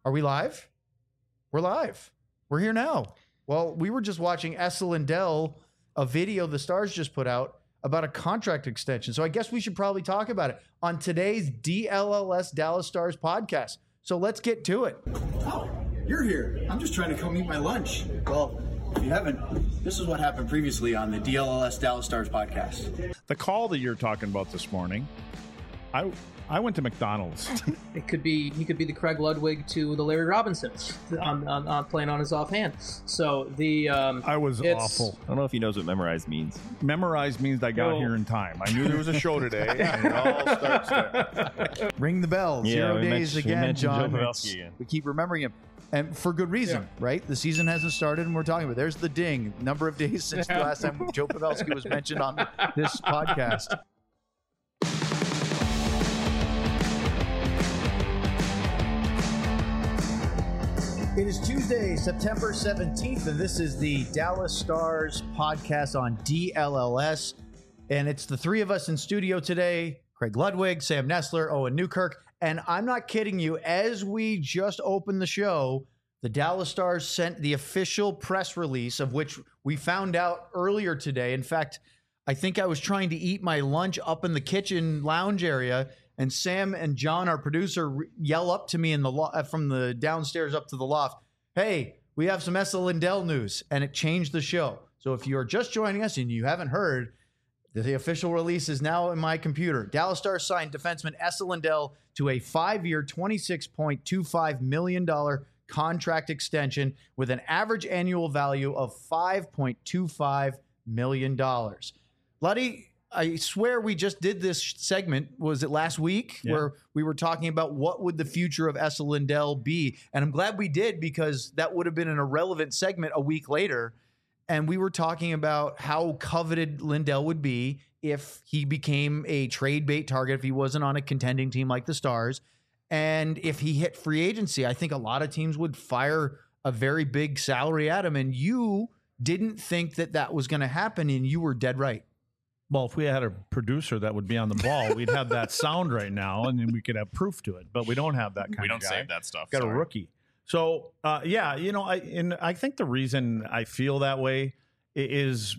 Are we live? We're live. We're here now. Well, we were just watching Esa Lindell, a video the Stars just put out about a contract extension. So I guess we should probably talk about it on today's DLLS Dallas Stars podcast. So let's get to it. Oh, you're here. I'm just trying to come eat my lunch. Well, if you haven't, this is what happened previously on the DLLS Dallas Stars podcast. The call that you're talking about this morning, I went to McDonald's. He could be the Craig Ludwig to the Larry Robinsons on playing on his offhand. So I was awful. I don't know if he knows what memorized means. Memorized means I got here in time. I knew there was a show today, and it all starts there. Ring the bell. 0 days again, John. Joe Pavelski again. We keep remembering him. And for good reason, right? The season hasn't started, and we're talking about there's the ding. Number of days since the last time Joe Pavelski was mentioned on this podcast. It is Tuesday, September 17th, and this is the Dallas Stars podcast on DLLS. And it's the three of us in studio today, Craig Ludwig, Sam Nestler, Owen Newkirk. And I'm not kidding you, as we just opened the show, the Dallas Stars sent the official press release, of which we found out earlier today. In fact, I think I was trying to eat my lunch up in the kitchen lounge area, and Sam and John, our producer, yell up to me in the from the downstairs up to the loft, "Hey, we have some Esa Lindell news," and it changed the show. So if you are just joining us and you haven't heard, the official release is now in my computer. Dallas Stars signed defenseman Esa Lindell to a 5-year, $26.25 million contract extension with an average annual value of $5.25 million. Luddy, I swear we just did this segment, was it last week, where we were talking about what would the future of Esa Lindell be? And I'm glad we did, because that would have been an irrelevant segment a week later. And we were talking about how coveted Lindell would be if he became a trade bait target, if he wasn't on a contending team like the Stars. And if he hit free agency, I think a lot of teams would fire a very big salary at him. And you didn't think that that was going to happen, and you were dead right. Well, if we had a producer that would be on the ball, we'd have that sound right now, and then we could have proof to it. But we don't have that kind of guy. We don't save that stuff. Got a rookie. So, I think the reason I feel that way is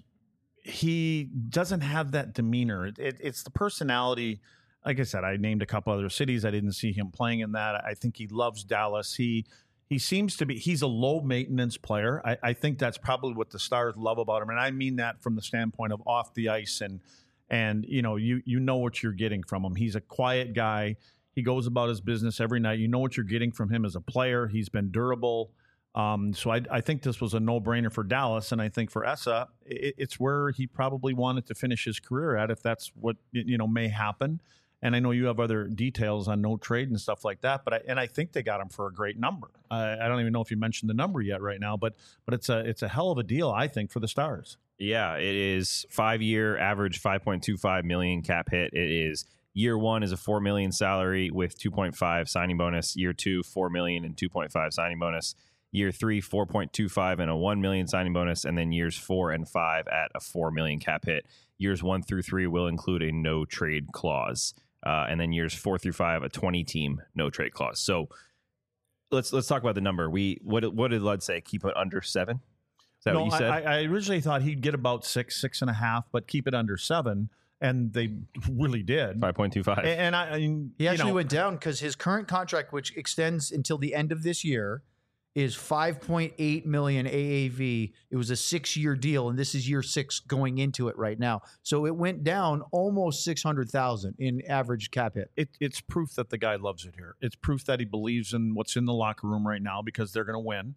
he doesn't have that demeanor. It's the personality. Like I said, I named a couple other cities. I didn't see him playing in that. I think he loves Dallas. He seems to be, he's a low maintenance player. I think that's probably what the Stars love about him. And I mean that from the standpoint of off the ice, and you know what you're getting from him. He's a quiet guy. He goes about his business every night. You know what you're getting from him as a player. He's been durable. So I think this was a no-brainer for Dallas. And I think for Esa, it's where he probably wanted to finish his career at, if that's what, may happen. And I know you have other details on no trade and stuff like that, but I think they got him for a great number. I don't even know if you mentioned the number yet right now, but it's a hell of a deal, I think, for the Stars. Yeah, it is 5-year average, $5.25 million cap hit. It is year one is a $4 million salary with 2.5 signing bonus. Year two, $4 million and 2.5 signing bonus. Year three, 4.25 and a $1 million signing bonus, and then years 4 and 5 at a $4 million cap hit. Years 1 through 3 will include a no trade clause. And then years 4 through 5, a 20-team no trade clause. So let's talk about the number. What did Lud say? Keep it under 7? Is that what you said? I originally thought he'd get about 6.5, but keep it under 7, and they really did. 5.25. And he actually went down, because his current contract, which extends until the end of this year, is $5.8 million AAV. It was a 6-year deal, and this is year 6 going into it right now. So it went down almost $600,000 in average cap hit. It's proof that the guy loves it here. It's proof that he believes in what's in the locker room right now, because they're going to win.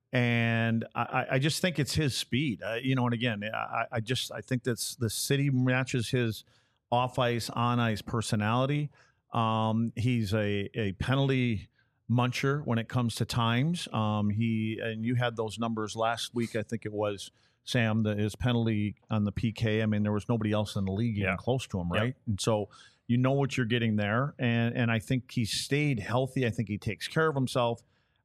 And I just think it's his speed, and again, I think that's the city matches his off ice, on ice personality. He's a penalty muncher when it comes to times. And you had those numbers last week, I think it was, Sam, his penalty on the PK. I mean, there was nobody else in the league even close to him, right? Yep. And so you know what you're getting there. And I think he stayed healthy. I think he takes care of himself.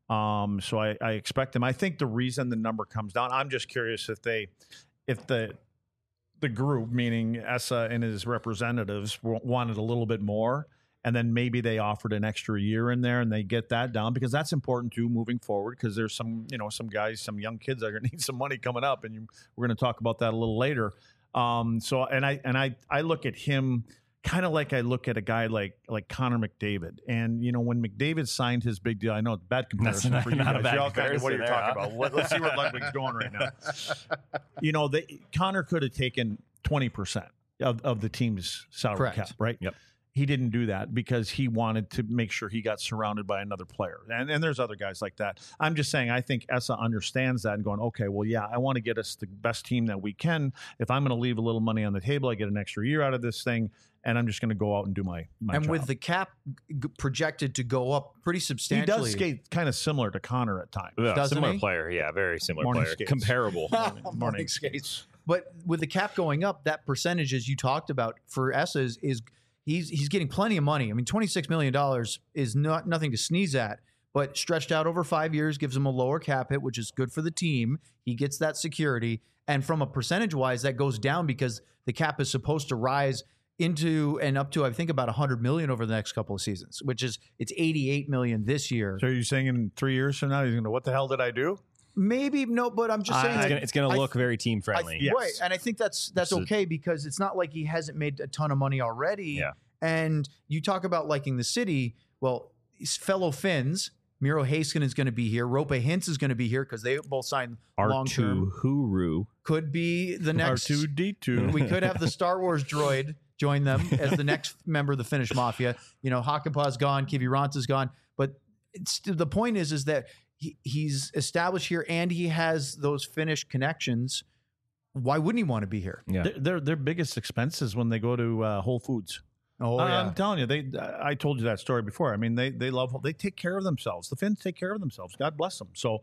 So I expect him. I think the reason the number comes down, I'm just curious if the group, meaning Esa and his representatives, wanted a little bit more. and then maybe they offered an extra year in there and they get that down, because that's important too moving forward, because there's some guys, some young kids that are going to need some money coming up, and we're going to talk about that a little later. So I look at him kind of like I look at a guy like Connor McDavid. And, when McDavid signed his big deal, I know it's a bad comparison for you guys. You're all kind of what you're talking about. Let's see where Ludwig's going right now. Connor could have taken 20% of the team's salary cap, right? Yep. He didn't do that because he wanted to make sure he got surrounded by another player. And there's other guys like that. I'm just saying, I think Esa understands that and going, okay, well, yeah, I want to get us the best team that we can. If I'm going to leave a little money on the table, I get an extra year out of this thing, and I'm just going to go out and do my and job. with the cap projected to go up pretty substantially. He does skate kind of similar to Connor at times. Yeah, Doesn't similar he? player. Yeah, very similar Morning player. skates. Comparable. Morning skates. But with the cap going up, that percentage, as you talked about, for Esa is he's getting plenty of money. I mean, $26 million is nothing to sneeze at, but stretched out over 5 years gives him a lower cap hit, which is good for the team. He gets that security. And from a percentage-wise, that goes down because the cap is supposed to rise into and up to, I think, about $100 million over the next couple of seasons, which is it's $88 million this year. So are you saying in 3 years from now, he's going to, what the hell did I do? Maybe no, but I'm just saying It's going to look very team friendly. Yes. right, and I think that's okay because it's not like he hasn't made a ton of money already. Yeah. And you talk about liking the city. Well, his fellow Finns, Miro Heiskanen is going to be here. Rope Hintz is going to be here because they both signed long term. Huru Could be the next R2D2. We could have the Star Wars droid join them as the next member of the Finnish mafia. Hakanpää's gone, Kiviranta's gone, but the point is that he's established here and he has those Finnish connections. Why wouldn't he want to be here? Yeah. Their biggest expenses when they go to Whole Foods. Oh, yeah. I'm telling you, I told you that story before. I mean, they take care of themselves. The Finns take care of themselves. God bless them. So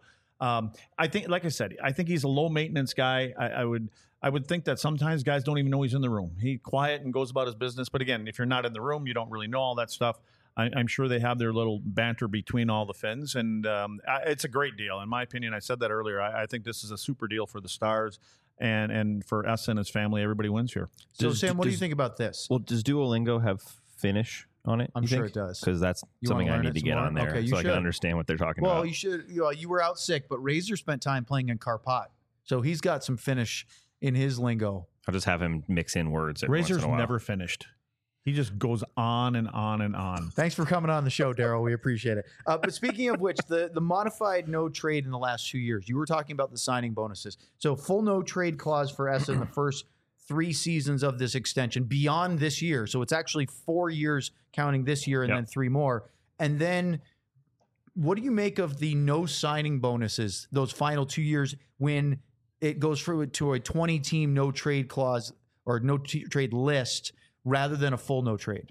I think, like I said, I think he's a low maintenance guy. I would think that sometimes guys don't even know he's in the room. He's quiet and goes about his business. But again, if you're not in the room, you don't really know all that stuff. I'm sure they have their little banter between all the Finns, and it's a great deal. In my opinion, I said that earlier. I think this is a super deal for the Stars and for Esa and his family. Everybody wins here. So, Sam, what do you think about this? Well, does Duolingo have Finnish on it? I'm sure it does. Because that's something I need to get on there so I can understand what they're talking about. Well, you should. You were out sick, but Razor spent time playing in Karpat, so he's got some Finnish in his lingo. I'll just have him mix in words. Every Razor's once in a while. never finished. He just goes on and on and on. Thanks for coming on the show, Daryl. We appreciate it. But speaking of which, the modified no trade in the last 2 years, you were talking about the signing bonuses. So full no trade clause for Esa in the first 3 seasons of this extension beyond this year. So it's actually 4 years counting this year and then 3 more. And then what do you make of the no signing bonuses, those final 2 years when it goes through to a 20-team no trade clause or no trade list rather than a full no trade?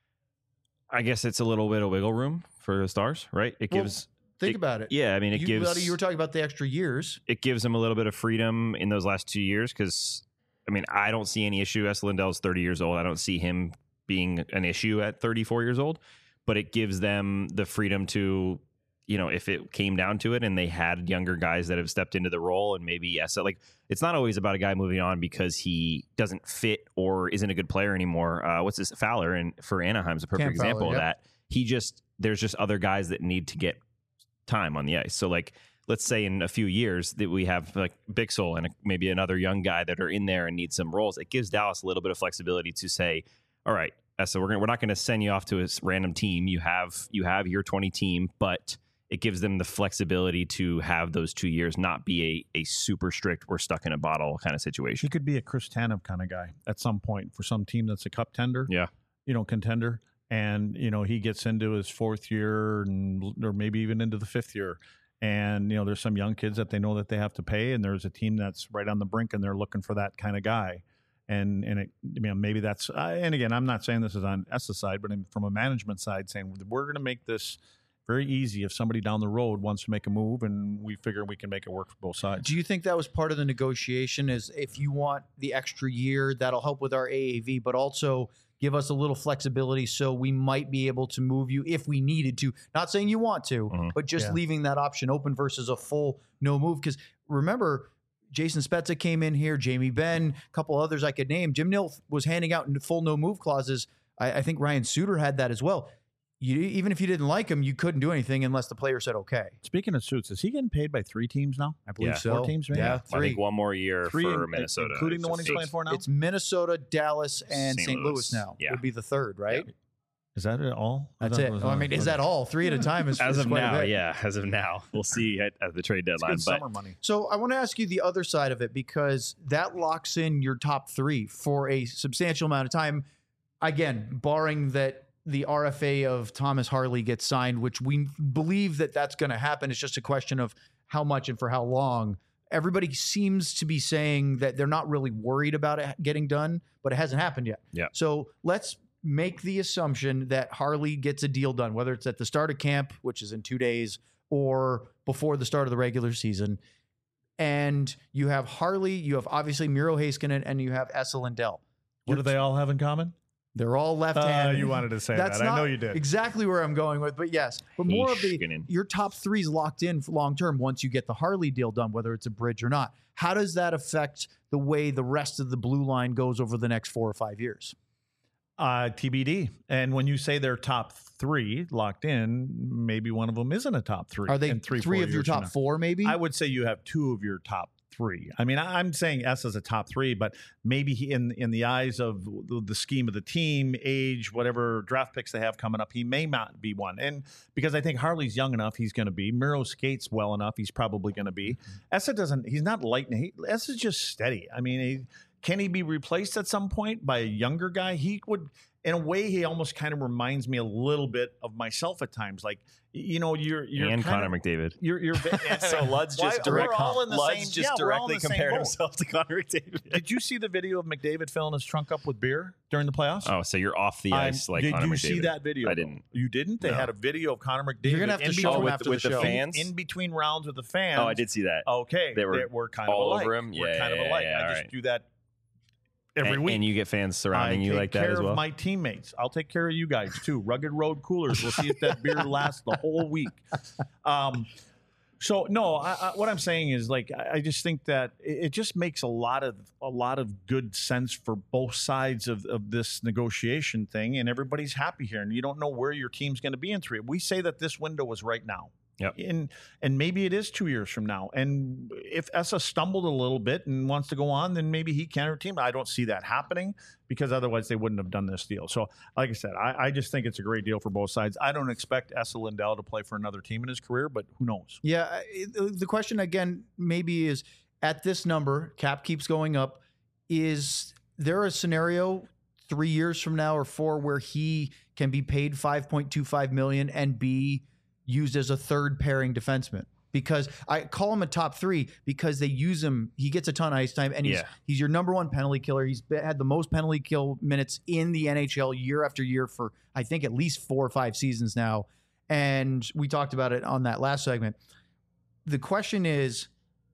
I guess it's a little bit of wiggle room for the Stars, right? It gives. Think about it. Yeah, I mean, you were talking about the extra years. It gives them a little bit of freedom in those last 2 years because, I mean, I don't see any issue. Esa Lindell's 30 years old. I don't see him being an issue at 34 years old, but it gives them the freedom to, if it came down to it and they had younger guys that have stepped into the role and maybe Esa, it's not always about a guy moving on because he doesn't fit or isn't a good player anymore. What's this Fowler? And for Anaheim's a perfect example of that. There's just other guys that need to get time on the ice. So let's say in a few years that we have Bixel and maybe another young guy that are in there and need some roles. It gives Dallas a little bit of flexibility to say, all right, Esa, we're not going to send you off to a random team. You have your 20 team, but it gives them the flexibility to have those 2 years not be a super strict, we're stuck in a bottle kind of situation. He could be a Chris Tanev kind of guy at some point for some team that's a cup tender. Yeah. Contender. And, he gets into his 4th year or maybe even into the 5th year. And, there's some young kids that they know that they have to pay. And there's a team that's right on the brink and they're looking for that kind of guy. And maybe that's, and again, I'm not saying this is on Esa's side, but from a management side saying we're going to make this very easy if somebody down the road wants to make a move and we figure we can make it work for both sides. Do you think that was part of the negotiation is if you want the extra year, that'll help with our AAV, but also give us a little flexibility so we might be able to move you if we needed to? Not saying you want to, but just leaving that option open versus a full no move. Because remember, Jason Spezza came in here, Jamie Benn, a couple others I could name. Jim Nill was handing out full no move clauses I think Ryan Suter had that as well. Even if you didn't like him, you couldn't do anything unless the player said okay. Speaking of Suits, is he getting paid by 3 teams now? I believe Yeah. so. 4 teams, maybe? Yeah, I 3. think one more year 3 for Minnesota, including the one he's So playing for now. It's Minnesota, Dallas, and St. St. Louis Louis. now. Yeah. Would be the third, right? Is that it all? That's it. I mean, is that all? 3 at a time is As is of quite a now, bit. yeah. As of now, we'll see at the trade It's deadline. good But summer money? So I want to ask you the other side of it, because that locks in your top 3 for a substantial amount of time. Again, barring that the RFA of Thomas Harley gets signed, which we believe that that's going to happen. It's just a question of how much and for how long. Everybody seems to be saying that they're not really worried about it getting done, but it hasn't happened yet. Yeah. So let's make the assumption that Harley gets a deal done, whether it's at the start of camp, which is in 2 days, or before the start of the regular season. And you have Harley, you have obviously Miro Heiskanen, and you have Esa Lindell. What do they all have in common? They're all left-handed. You wanted to say That's that. I not know you did. exactly where I'm going with, but yes. But more of Heiskanen. your top 3 is locked in for long term once you get the Harley deal done, whether it's a bridge or not. How does that affect the way the rest of the blue line goes over the next 4 or 5 years? TBD. And when you say they're top 3 locked in, maybe one of them isn't a top 3. Are they in 3 4 of your years from top now. 4, maybe? I would say you have 2 of your top 3. I mean, I'm saying S as a top 3, but maybe he, in the eyes of the scheme of the team, age, whatever draft picks they have coming up, he may not be one. And because I think Harley's young enough, he's going to be. Miro skates well enough, he's probably going to be. Esa doesn't. He's not lightning. Esa's just steady. I mean, can he be replaced at some point by a younger guy? He would. In a way, he almost kind of reminds me a little bit of myself at times. Like, you know, you're and Connor McDavid. You're So Lud's just we're all in the Lud's same, just we're all in directly the same compared boat. himself to Connor McDavid. Did you see the video of McDavid filling his trunk up with beer during the playoffs? Oh, so you're off the ice like Did Connor you McDavid. see that video? I though? didn't. You didn't? They No. had a video of Connor McDavid. You're going to have to in show between- him with- after with the the show. fans? in between rounds with the fans. Oh, I did see that. Okay, They were we're kind of all alike. over him? We're Yeah, kind of yeah, alike. yeah, I all just right. do that every week. And you get fans surrounding I you take like that care as well. of my teammates. I'll take care of you guys too. Rugged Road Coolers. We'll see if that beer lasts the whole week. So no, what I'm saying is like I just think that it just makes a lot of good sense for both sides of this negotiation thing, and everybody's happy here. And you don't know where your team's going to be in 3. We say that this window was right now. Yep. And maybe it is 2 years from now. And if Esa stumbled a little bit and wants to go on, then maybe he can team. I don't see that happening because otherwise they wouldn't have done this deal. So, like I said, I just think it's a great deal for both sides. I don't expect Esa Lindell to play for another team in his career, but who knows? Yeah. The question again maybe is, at this number, cap keeps going up. Is there a scenario 3 years from now or 4 where he can be paid $5.25 million and be used as a third pairing defenseman? Because I call him a top 3 because they use him. He gets a ton of ice time, and he's your number 1 penalty killer. He's had the most penalty kill minutes in the NHL year after year for I think at least 4 or 5 seasons now. And we talked about it on that last segment. The question is,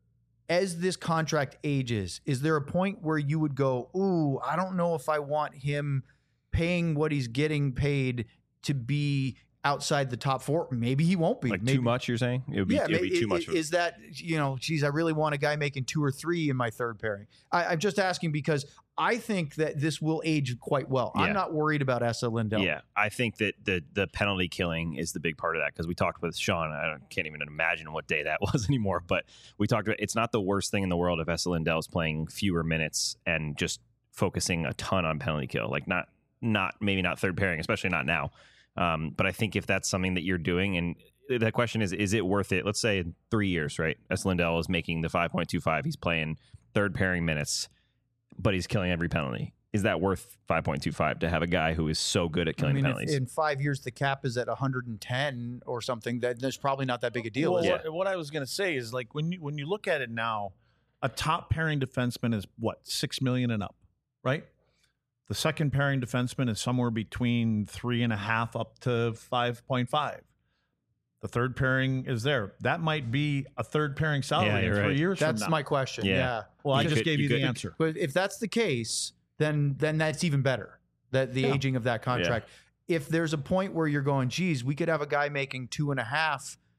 as this contract ages, is there a point where you would go, ooh, I don't know if I want him paying what he's getting paid to be outside the top 4? Maybe he won't be. Like maybe, too much, you're saying? It would be too much. Is that, geez, I really want a guy making 2 or 3 in my third pairing. I'm just asking because I think that this will age quite well. Yeah. I'm not worried about Esa Lindell. Yeah, I think that the penalty killing is the big part of that because we talked with Sean. I can't even imagine what day that was anymore, but we talked about it's not the worst thing in the world if Esa Lindell is playing fewer minutes and just focusing a ton on penalty kill. Like maybe not third pairing, especially not now. But I think if that's something that you're doing, and the question is it worth it? Let's say in 3 years, right? Esa Lindell is making the 5.25. He's playing third pairing minutes, but he's killing every penalty. Is that worth 5.25 to have a guy who is so good at killing penalties? If in 5 years the cap is at 110 or something, that there's probably not that big a deal. Well, is it? what I was going to say is like when you look at it now, a top pairing defenseman is what, $6 million and up, right? The second pairing defenseman is somewhere between 3.5 up to 5.5. The third pairing is there. That might be a third pairing salary in 3 years from now. That's my question. Yeah. Well, I You just could- gave you you the could- answer. But if that's the case, then that's even better. That the aging of that contract. If there's a point where you're going, geez, we could have a guy making 2.5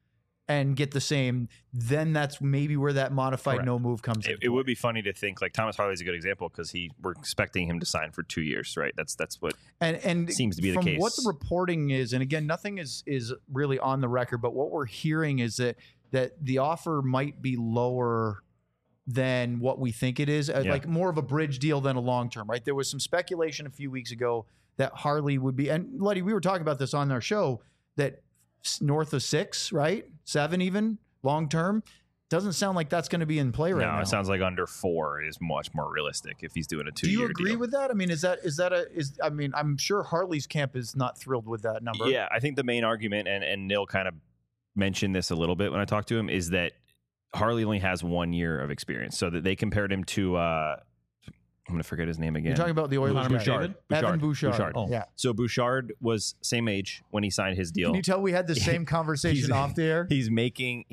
and get the same, then that's maybe where that modified Correct. no move comes in. It would be funny to think like Thomas Harley's a good example because we're expecting him to sign for 2 years, right? That's what and seems to be the from case. what the reporting is, and again, nothing is really on the record, but what we're hearing is that the offer might be lower than what we think it is, like more of a bridge deal than a long term, right? There was some speculation a few weeks ago that Harley would be, and Letty, we were talking about this on our show, that north of 6, right? 7 even long term. Doesn't sound like that's going to be in play right now. No, it sounds like under 4 is much more realistic if he's doing a 2 year Do deal. you agree with that? I mean, I mean, I'm sure Harley's camp is not thrilled with that number. Yeah, I think the main argument, and Nil kind of mentioned this a little bit when I talked to him, is that Harley only has 1 year of experience. So that they compared him to I'm going to forget his name again. You're talking about the Oilers guy. Bouchard? Evan Bouchard. Oh. Yeah. So Bouchard was same age when he signed his deal. Can you tell we had the same conversation off the air? He's making,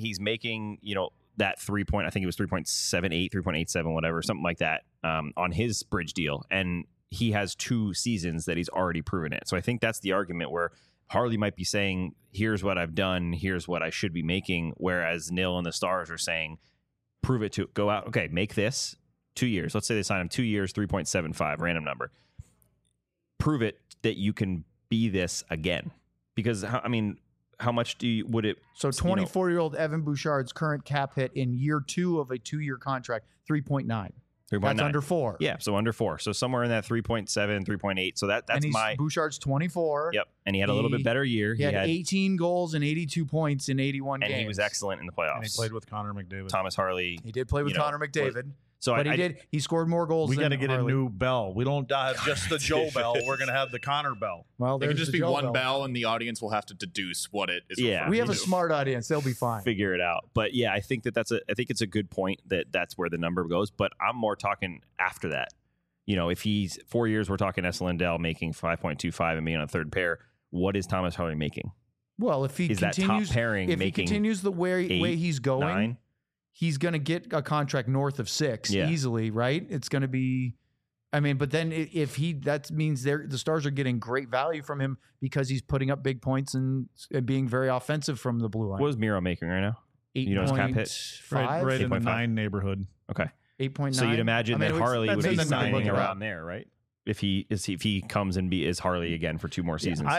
that 3 point, I think it was 3.78, 3.87, whatever, something like that, on his bridge deal. And he has 2 seasons that he's already proven it. So I think that's the argument where Harley might be saying, here's what I've done, here's what I should be making. Whereas Nil and the Stars are saying, prove it to go out. Okay, make this 2 years. Let's say they sign him 2 years, 3.75, random number. Prove it that you can be this again. Because, how much would it? So 24-year-old Evan Bouchard's current cap hit in year 2 of a 2-year contract, 3.9. 3.9. That's under 4. Yeah, so under 4. So somewhere in that 3.7, 3.8. So that's and Bouchard's 24. Yep. And he had a little bit better year. He had 18 goals and 82 points in 81 games. And he was excellent in the playoffs. And he played with Connor McDavid. Thomas Harley. He did play with Connor McDavid. So but he scored more goals. We got to get a new Bell. We don't have just the Joe Bell. We're going to have the Connor Bell. Well, it there's could just the be Joe one bell, and the audience will have to deduce what it is. Yeah, we have a smart audience; they'll be fine. Figure it out. But yeah, I think I think it's a good point that's where the number goes. But I'm more talking after that. If he's 4 years, we're talking Esa Lindell making 5.25 and being on a third pair. What is Thomas Harley making? Well, if he continues, that top pairing if he continues the way he's going. 9? He's going to get a contract north of 6 easily, right? It's going to be, but then that means the Stars are getting great value from him because he's putting up big points and being very offensive from the blue line. What is Miro making right now? 8.5? Right in the 8.5? 9 neighborhood. Okay. 8.9. So you'd imagine that Harley would be in the signing neighborhood. around there, right? If he comes and is Harley again for 2 more seasons.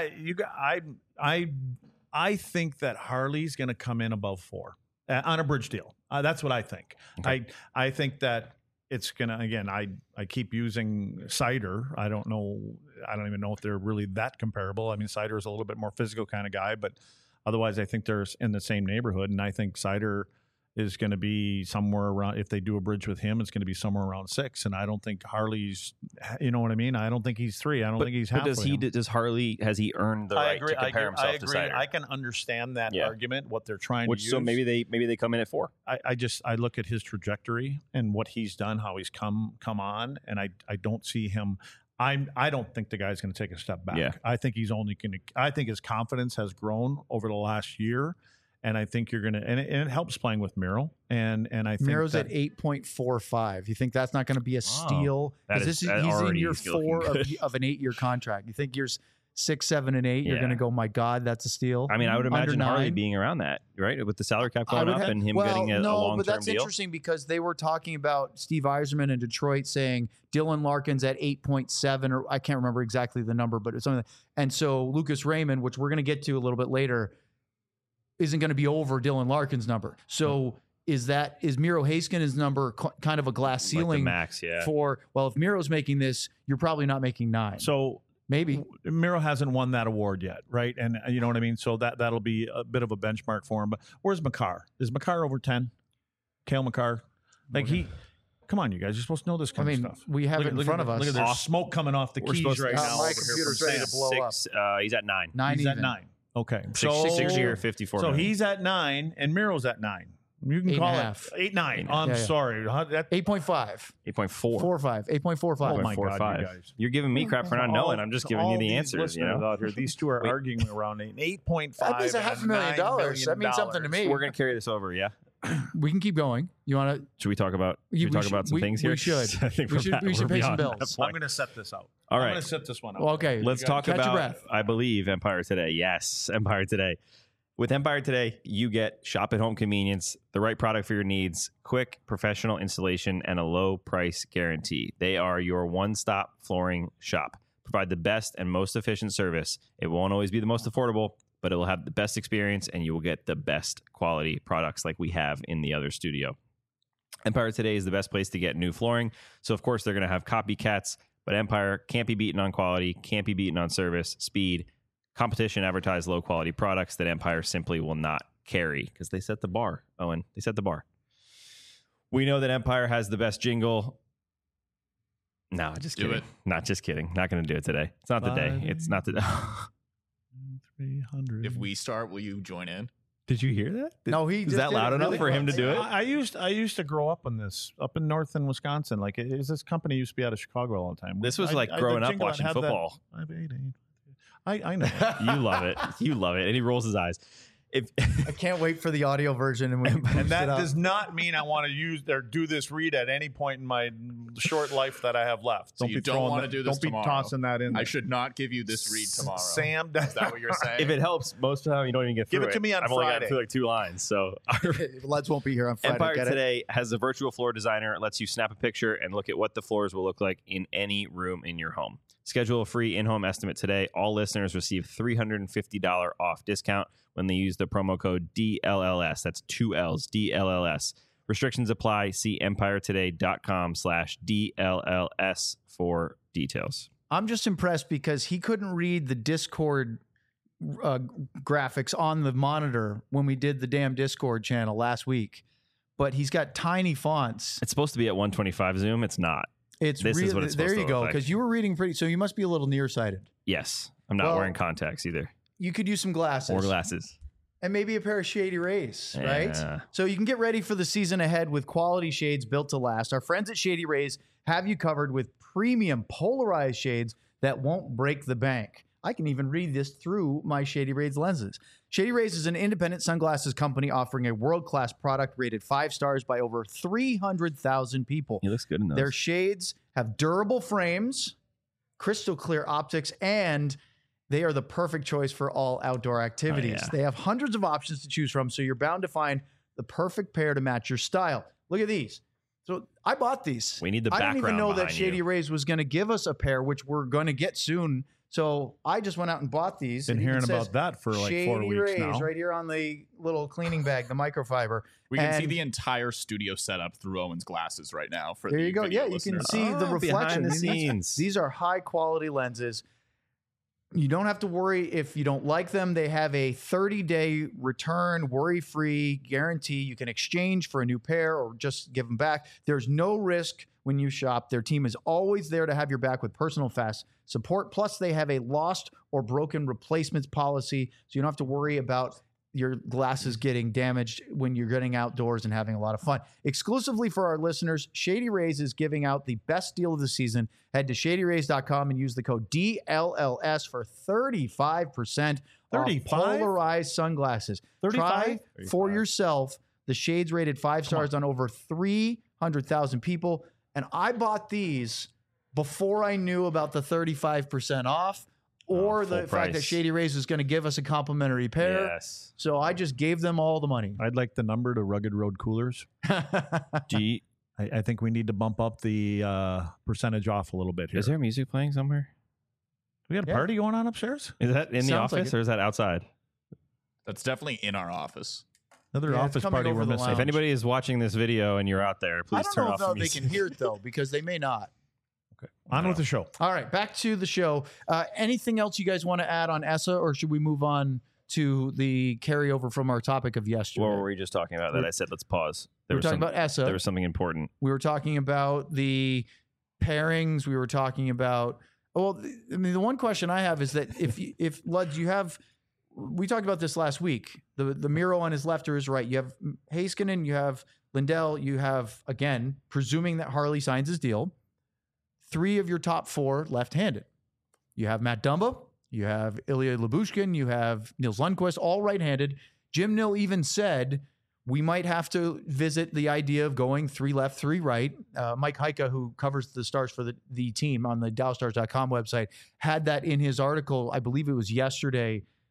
I think that Harley's going to come in above 4 on a bridge deal. That's what I think. Okay. I think that it's going to, again, I keep using Cider. I don't even know if they're really that comparable. Cider is a little bit more physical kind of guy, but otherwise I think they're in the same neighborhood. And I think Cider is going to be somewhere around, if they do a bridge with him, it's going to be somewhere around 6. And I don't think Harley's, you know what I mean? I don't think he's 3. I don't think he's halfway. But has Harley earned the right to compare himself to Cider? I can understand that argument, what they're trying to use. So maybe they come in at 4. I look at his trajectory and what he's done, how he's come on, and I don't see him. I don't think the guy's going to take a step back. Yeah. I think he's only going to. I think his confidence has grown over the last year. And I think you're going to, and it helps playing with Miro. And I think Miro's at 8.45. You think that's not going to be a steal? Because he's in year 4 of an 8-year contract. You think years 6, 7, and 8, you're going to go, my God, that's a steal? I would imagine Harley 9. being around that, right? With the salary cap going up and him getting a long-term but that's deal. interesting because they were talking about Steve Yzerman in Detroit saying Dylan Larkin's at 8.7, or I can't remember exactly the number, but it's something. And so Lucas Raymond, which we're going to get to a little bit later, isn't going to be over Dylan Larkin's number. So is Miro Haskins' number kind of a glass ceiling like the max, if Miro's making this, you're probably not making 9. So maybe Miro hasn't won that award yet, right? And you know what I mean? So that'll be a bit of a benchmark for him. But where's Makar? Is Makar over 10? Cale Makar? Come on, you guys. You're supposed to know this kind of stuff. We have it in front of us. Look at there's smoke coming off the keys right now. My computer's ready to blow up. He's at 9. He's at 9. Okay. 6 year, 54 So million. he's at 9 and Miro's at 9. You can call it 8.9. I'm sorry. 8.5. 8.4. 4.5. 8.45. Oh my God, you guys. You're giving me crap for not knowing. I'm just giving you the answers. Out here, these two are arguing around 8.5. That means $500,000. That means something to me. We're going to carry this over, yeah? We can keep going. You want to? Should we talk about? Some things here? We should. I think we should pay some bills. I'm going to set this out. All right. I'm going to set this one up. Okay. Let's talk catch your about. breath. I believe Empire Today. Yes, Empire Today. With Empire today, you get shop at home convenience, the right product for your needs, quick professional installation, and a low price guarantee. They are your one-stop flooring shop. Provide the best and most efficient service. It won't always be the most affordable, but it will have the best experience, and you will get the best quality products like we have in the other studio. Empire today is the best place to get new flooring. So, of course, they're going to have copycats, but Empire can't be beaten on quality, can't be beaten on service, speed. Competition advertise low quality products that Empire simply will not carry because they set the bar. Owen, they set the bar. We know that Empire has the best jingle. No, just kidding. it. Not just kidding. Not going to do it today. It's not the day. It's not the 300. If we start, will you join in? Did you hear that? No, he Is just that did loud it enough really for him to close. do it? I used to grow up on this up in northern Wisconsin. Like this company used to be out of Chicago all the time. This was like the growing up jingle watching had that- football. 588. I know. You love it. You love it. And he rolls his eyes. If I can't wait for the audio version, and, And that does not mean I want to use or do this read at any point in my short life that I have left. So you don't want to do this Don't be tomorrow. tossing that in. I there. should not give you this read tomorrow. Sam, Is that what you're saying? if it helps, most of the time you don't even get through Give it to me on I've only Friday. gotten through like 2 lines. So Lads won't be here on Friday. Empire get it? today has a virtual floor designer. It lets you snap a picture and look at what the floors will look like in any room in your home. Schedule a free in-home estimate today. All listeners receive $350 off discount when they use the promo code DLLS. That's 2 L's, DLLS. Restrictions apply. See empiretoday.com/DLLS for details. I'm just impressed because he couldn't read the Discord graphics on the monitor when we did the damn Discord channel last week, but he's got tiny fonts. It's supposed to be at 125 zoom. It's not. It's This is really, what it's there supposed you to go, look like. because you were reading pretty, so you must be a little nearsighted. Yes. I'm not Well, wearing contacts either. You could use some glasses. Or glasses. And maybe a pair of Shady Rays, right? Yeah. So you can get ready for the season ahead with quality shades built to last. Our friends at Shady Rays have you covered with premium polarized shades that won't break the bank. I can even read this through my Shady Rays lenses. Shady Rays is an independent sunglasses company offering a world-class product rated 5 stars by over 300,000 people. He looks good in those. Their shades have durable frames, crystal clear optics, and they are the perfect choice for all outdoor activities. yeah. They have hundreds of options to choose from, so you're bound to find the perfect pair to match your style. Look at these. So I bought these. We need the I didn't even background know that behind Shady you. Rays was going to give us a pair, which we're going to get soon. So I just went out and bought these. Been It even hearing says about that for like Shady 4 weeks Rays now. right here on the little cleaning bag, the microfiber. We can see And the entire studio setup through Owen's glasses right now. For there the you go. video Yeah, you can listeners. see the Oh, reflection. behind the These- scenes. These are high quality lenses. You don't have to worry if you don't like them. They have a 30-day return, worry-free guarantee. You can exchange for a new pair or just give them back. There's no risk when you shop. Their team is always there to have your back with personal fast support. Plus, they have a lost or broken replacements policy, so you don't have to worry about your glasses getting damaged when you're getting outdoors and having a lot of fun. Exclusively for our listeners, Shady Rays is giving out the best deal of the season. Head to shadyrays.com and use the code DLLS for 35% off 35? polarized sunglasses. 35? Try for yourself the shades rated 5 stars on over 300,000 people. And I bought these before I knew about the 35% off or full the fact that price. Shady Rays was going to give us a complimentary pair. Yes. So I just gave them all the money. I'd like the number to Rugged Road Coolers. G. I think we need to bump up the percentage off a little bit here. Is there music playing somewhere? We got a Yeah. party going on upstairs? Is that in the Sounds like office it. or is that outside? That's definitely in our office. Another Yeah, it's office coming party over we're the missing. lounge. If anybody is watching this video and you're out there, I please don't turn know off if the they music. can hear it though, because they may not. On with the show. All right, back to the show. Anything else you guys want to add on ESSA, or should we move on to the carryover from our topic of yesterday? What were we just talking about that I said let's pause? we were talking about ESSA. There was something important. We were talking about the pairings. We were talking about. Well, I mean, the one question I have is that if Luds, you have. We talked about this last week. The Miro on his left or his right. You have Heiskanen, you have Lindell, you have, again, presuming that Harley signs his deal, 3 of your top 4 left-handed. You have Matt Dumba, you have Ilya Lyubushkin, you have Nils Lundqvist, all right-handed. Jim Nill even said we might have to visit the idea of going 3 left, 3 right. Mike Heika, who covers the Stars for the team on the DallasStars.com website, had that in his article. I believe it was yesterday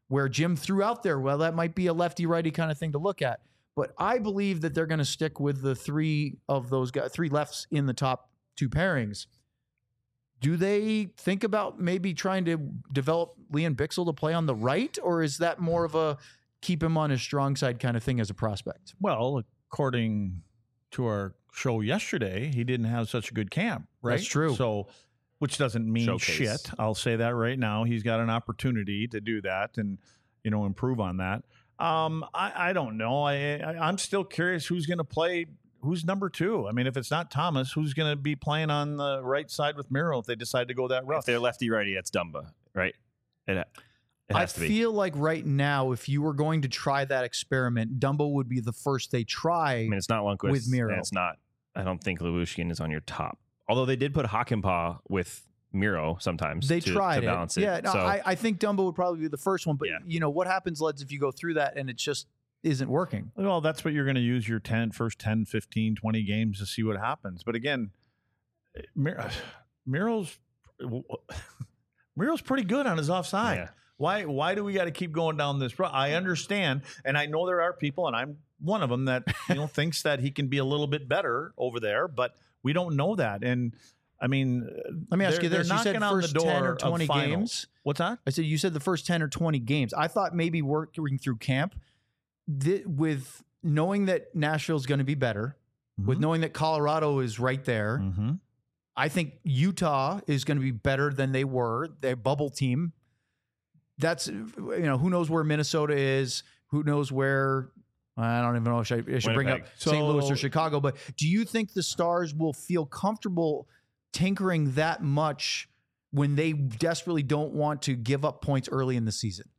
where Jim threw out there, well, that might be a lefty-righty kind of thing to look at. But I believe that they're going to stick with the three of those guys, three lefts in the top two pairings. Do they think about maybe trying to develop Liam Bixel to play on the right, or is that more of a keep him on his strong side kind of thing as a prospect? Well, according to our show yesterday, he didn't have such a good camp, right? That's true. So, which doesn't mean Showcase. shit. I'll say that right now. He's got an opportunity to do that and, improve on that. I don't know. I'm still curious who's going to play. Who's number two? I mean, if it's not Thomas, who's going to be playing on the right side with Miro if they decide to go that route? If they're lefty-righty, that's Dumba, right? It has to be. I feel like right now, if you were going to try that experiment, Dumbo would be the first they try. I mean, it's not Lundqvist. with Miro. And it's not. I don't think Levushkin is on your top. Although they did put Hakanpää with Miro sometimes. They to tried balance it. it. Yeah, no, So, I think Dumbo would probably be the first one. But, Yeah. what happens, Leds, if you go through that and it just isn't working? Well, that's what you're going to use your first 10, 15, 20 games to see what happens. But again, Miro's pretty good on his offside. Yeah. Why do we got to keep going down this road? I understand, and I know there are people, and I'm one of them that thinks that he can be a little bit better over there, but we don't know that. And I mean, Let me ask you they're this. You said knocking on the first door 10 or of 20 finals. games? What's that? I said you said the first 10 or 20 games. I thought maybe working through camp with knowing that Nashville's going to be better, with knowing that Colorado is right there. Mm-hmm. I think Utah is going to be better than they were. Their bubble team. That's, who knows where Minnesota is? Who knows where? I don't even know if I should bring up Winnipeg. St. Louis So- or Chicago. But do you think the Stars will feel comfortable tinkering that much when they desperately don't want to give up points early in the season?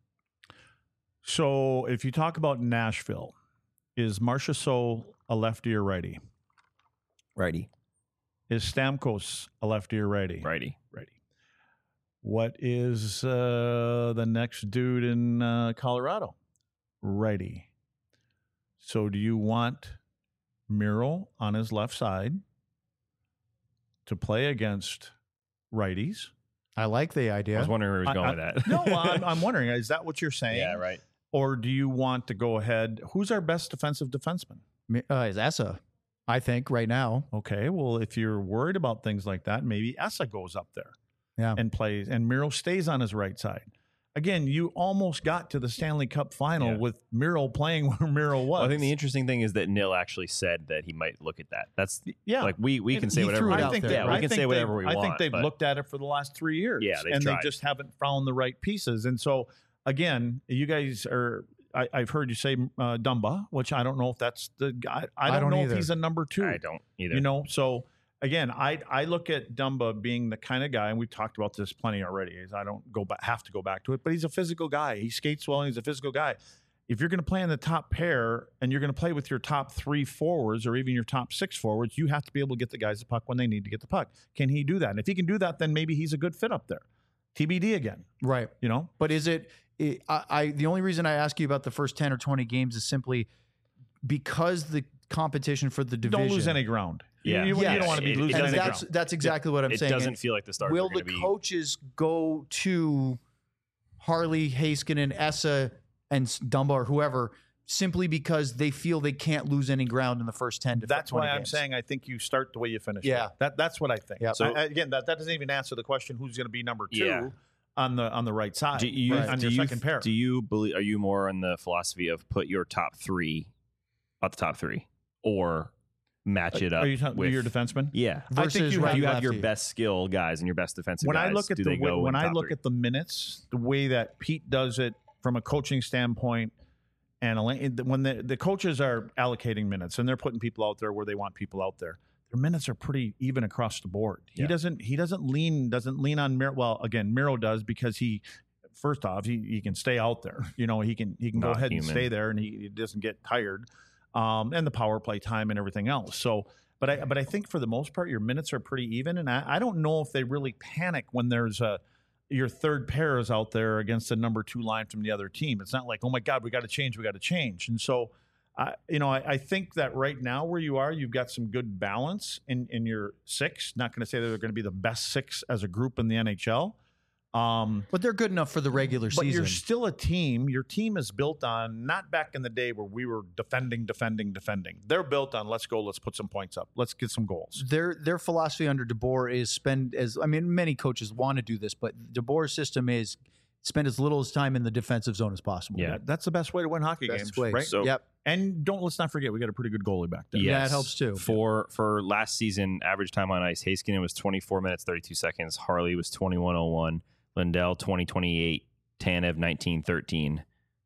So if you talk about Nashville, is Marchessault a lefty or righty? righty. Is Stamkos a lefty or righty? Righty. Righty. What is the next dude in Colorado? Righty. So do you want Miro on his left side to play against righties? I like the I idea. was wondering where he was going with that. No, I'm wondering, is that what you're saying? Yeah, right. Or do you want to go ahead? Who's our best defensive defenseman? Is Essa, I think, right now. Okay, well, if you're worried about things like that, maybe Essa goes up there and plays, and Miro stays on his right side. Again, you almost got to the Stanley Cup final with Miro playing where Miro was. Well, I think the interesting thing is that Nil actually said that he might look at that. That's like we can say he whatever threw we it want. out think there. they, Yeah, we can say whatever we want. I think they've but looked at it for the last 3 years. Yeah, they've and tried. they just haven't found the right pieces. And so, again, you guys are. I've heard you say Dumba, which I don't know if that's the guy. I don't know either. if he's a number two. I don't either. So again, I look at Dumba being the kind of guy, and we've talked about this plenty already. Is I don't have to go back to it, but he's a physical guy. He skates well, and he's a physical guy. If you're going to play in the top pair and you're going to play with your top 3 forwards or even your top 6 forwards, you have to be able to get the guys the puck when they need to get the puck. Can he do that? And if he can do that, then maybe he's a good fit up there. TBD again. Right. But is it the only reason I ask you about the first 10 or 20 games is simply because the competition for the division. Don't lose any ground. Yeah. You don't want to be It losing any doesn't- ground. That's exactly what I'm It saying. doesn't And feel like the Stars will are going the to be. coaches go to Harley, Heiskanen, Essa, and Dumba or whoever simply because they feel they can't lose any ground in the first 10 to 20 That's why I'm games? saying I think you start the way you finish. Yeah. That's what I think. Yep. So again, that doesn't even answer the question who's going to be number 2 Yeah. on the right side. Do you, on your second pair. Do you believe? Are you more on the philosophy of put your top 3 at the top 3, or match it up Are you talking with your defenseman? Yeah, I think Versus you right you have your lefty. best skill guys and your best defensive When guys. I look at do the they go when in I top look 3? at the minutes, the way that Pete does it from a coaching standpoint, and when the coaches are allocating minutes and they're putting people out there where they want people out there, their minutes are pretty even across the board. He Yeah. doesn't lean on Miro. Well, again, Miro does because he. First off, he can stay out there. He can go Not ahead human. and stay there, and he doesn't get tired. And the power play time and everything else. So, but I think for the most part, your minutes are pretty even, and I don't know if they really panic when there's your third pair is out there against the number 2 line from the other team. It's not like, oh my God, we got to change. And so, I think that right now where you are, you've got some good balance in your 6. Not going to say that they're going to be the best 6 as a group in the NHL. But they're good enough for the regular But season. you're still a team. Your team is built on not back in the day where we were defending. They're built on let's go, let's put some points up, let's get some goals. Their philosophy under DeBoer is many coaches want to do this, but DeBoer's system is spend as little as time in the defensive zone as possible. Yeah. That's the best way to win hockey Best games, way. right? So- Yep. And let's not forget we got a pretty good goalie back there. Yeah, it helps too. For last season, average time on ice, Heiskanen was 24 minutes 32 seconds. Harley was 21:01. Lindell 20:28. Tanev 19:13.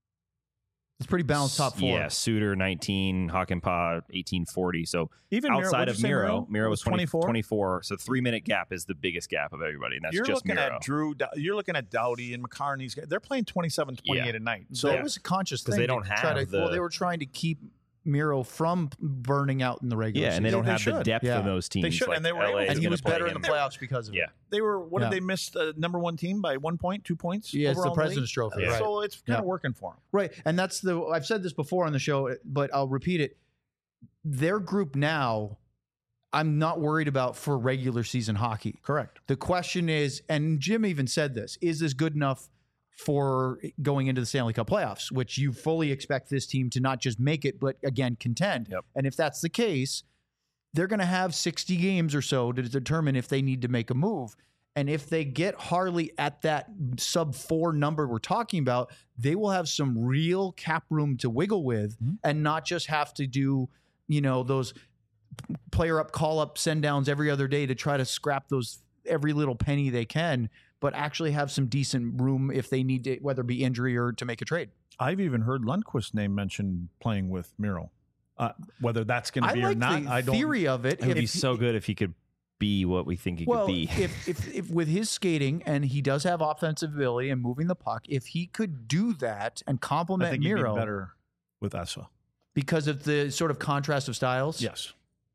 It's pretty balanced top four. Yeah, Suter 19, Hakanpää 18:40. So Even outside what'd of you say, Miro was 24. 24. So 3-minute gap is the biggest gap of everybody, and that's You're just looking Miro. at Drew. You're looking at Doughty and McCartney's. They're playing 27-28 a night. So So it was a conscious 'Cause thing. they don't to try have they were trying to keep Miro from burning out in the regular yeah, season. and they don't have the should. depth Yeah. of those teams. should, like and they were LA able to. is and he gonna was play better in him. the playoffs because of it. Yeah. They were. What Yeah. did they miss? The number one team by 1 point, 2 points. Yeah, it's the overall in league? President's Trophy, Yeah. right. So it's kind of Yeah. working for them. Right. And that's I've said this before on the show, but I'll repeat it. Their group now, I'm not worried about for regular season hockey. Correct. The question is, and Jim even said this, is this good enough for going into the Stanley Cup playoffs, which you fully expect this team to not just make it, but again, contend. Yep. And if that's the case, they're going to have 60 games or so to determine if they need to make a move. And if they get Harley at that sub 4 number we're talking about, they will have some real cap room to wiggle with and not just have to do, those player up, call up, send downs every other day to try to scrap those every little penny they can, but actually have some decent room if they need to, whether it be injury or to make a trade. I've even heard Lundqvist's name mentioned playing with Miro. Whether that's going to I be like or not, the I don't. theory of it. It would be If- so good if he could be what we think he well, could be. if with his skating, and he does have offensive ability and moving the puck, if he could do that and I complement think he'd be Miro better with Essa. because of the sort of contrast of styles. Yes.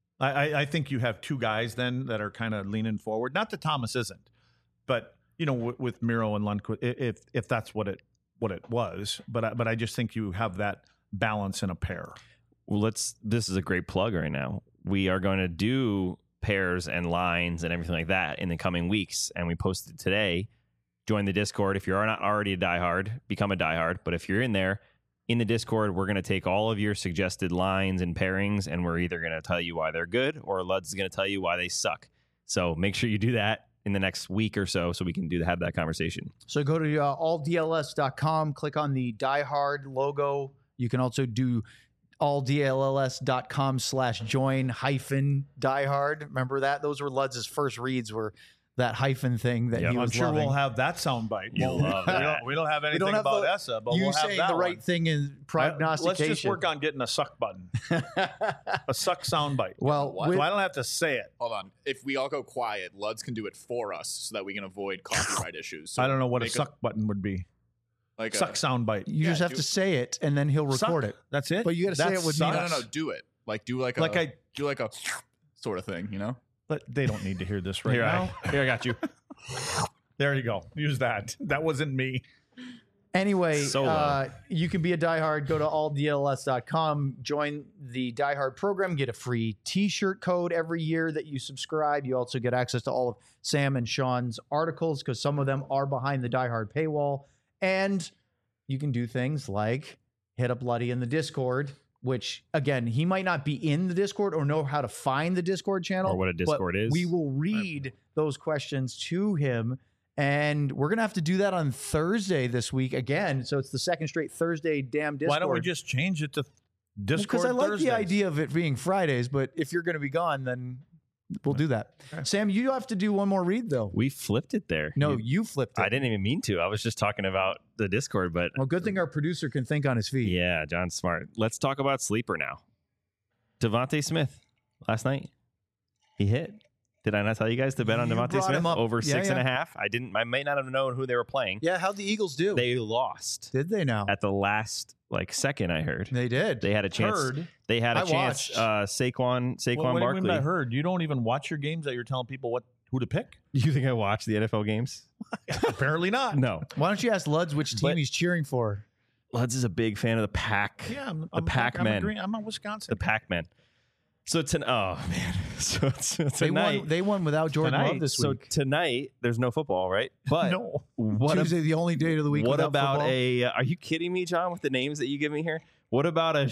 I think you have two guys then that are kind of leaning forward. Not that Thomas isn't, but with Miro and Lundqvist, if that's what it was. But I just think you have that balance in a pair. Well, this is a great plug right now. We are going to do pairs and lines and everything like that in the coming weeks. And we posted today, join the Discord. If you're not already a diehard, become a diehard. But if you're in there, in the Discord, we're going to take all of your suggested lines and pairings, and we're either going to tell you why they're good or Luds is going to tell you why they suck. So make sure you do that in the next week or so we can have that conversation. So go to alldls.com, click on the Die Hard logo. You can also do alldls.com/join-diehard. Remember that? Those were Luds' first reads, were that hyphen thing that Yep. he I'm was sure loving. we'll have that soundbite. You'll love that. We don't have anything don't have about the- Essa, but you we'll have saying that the right one. thing in prognostication. Let's just work on getting a suck button, a suck soundbite. Well, What? with- So I don't have to say it. Hold on. If we all go quiet, Luds can do it for us so that we can avoid copyright issues. So I don't know what a make suck button would be. like Suck soundbite. you just have do- to say it, and then he'll record Suck. it. That's it. But you gotta say That's it with suck. me. No, do it. Like do like Like a sort of thing, you know? But they don't need to hear this right Here, now. I got you. There you go. Use that. That wasn't me. Anyway, Solo. you can be a diehard. Go to alldls.com, join the diehard program, get a free t-shirt code every year that you subscribe. You also get access to all of Sam and Sean's articles because some of them are behind the diehard paywall. And you can do things like hit up Luddy in the Discord, which, again, he might not be in the Discord or know how to find the Discord channel. Or what a but Discord is. We will read those questions to him. And we're going to have to do that on Thursday this week again. So it's the second straight Thursday damn Discord. Why don't we just change it to Discord Because I like Thursdays? the idea of it being Fridays, but if you're going to be gone, then we'll do that. Sam, you have to do one more read, though. We flipped it there. No, you flipped it. I didn't even mean to. I was just talking about the Discord, but Well, good thing our producer can think on his feet. yeah, John's smart. Let's talk about sleeper now. Devontae Smith last night, he hit. Did I not tell you guys to bet on You Devontae brought Smith him up. over Yeah, 6.5? I didn't. I may not have known who they were playing. Yeah, how'd the Eagles do? They lost Did they now? at the last second. I heard They did. they had a chance. Heard? They had a I chance. Saquon What do you mean Barkley. by heard? You don't even watch your games that you're telling people who to pick? You think I watch the NFL games? Apparently not. No. Why don't you ask Luds which team But- he's cheering for? Luds is a big fan of the Pack. Yeah, the Pac-Men. I'm a Wisconsin. The Pac-Men. So tonight, They won without Jordan Tonight. Love this so week. tonight there's no football, right? But No. what Tuesday, the only day of the week. what without about football. a? Are you kidding me, John? With the names that you give me here, what about a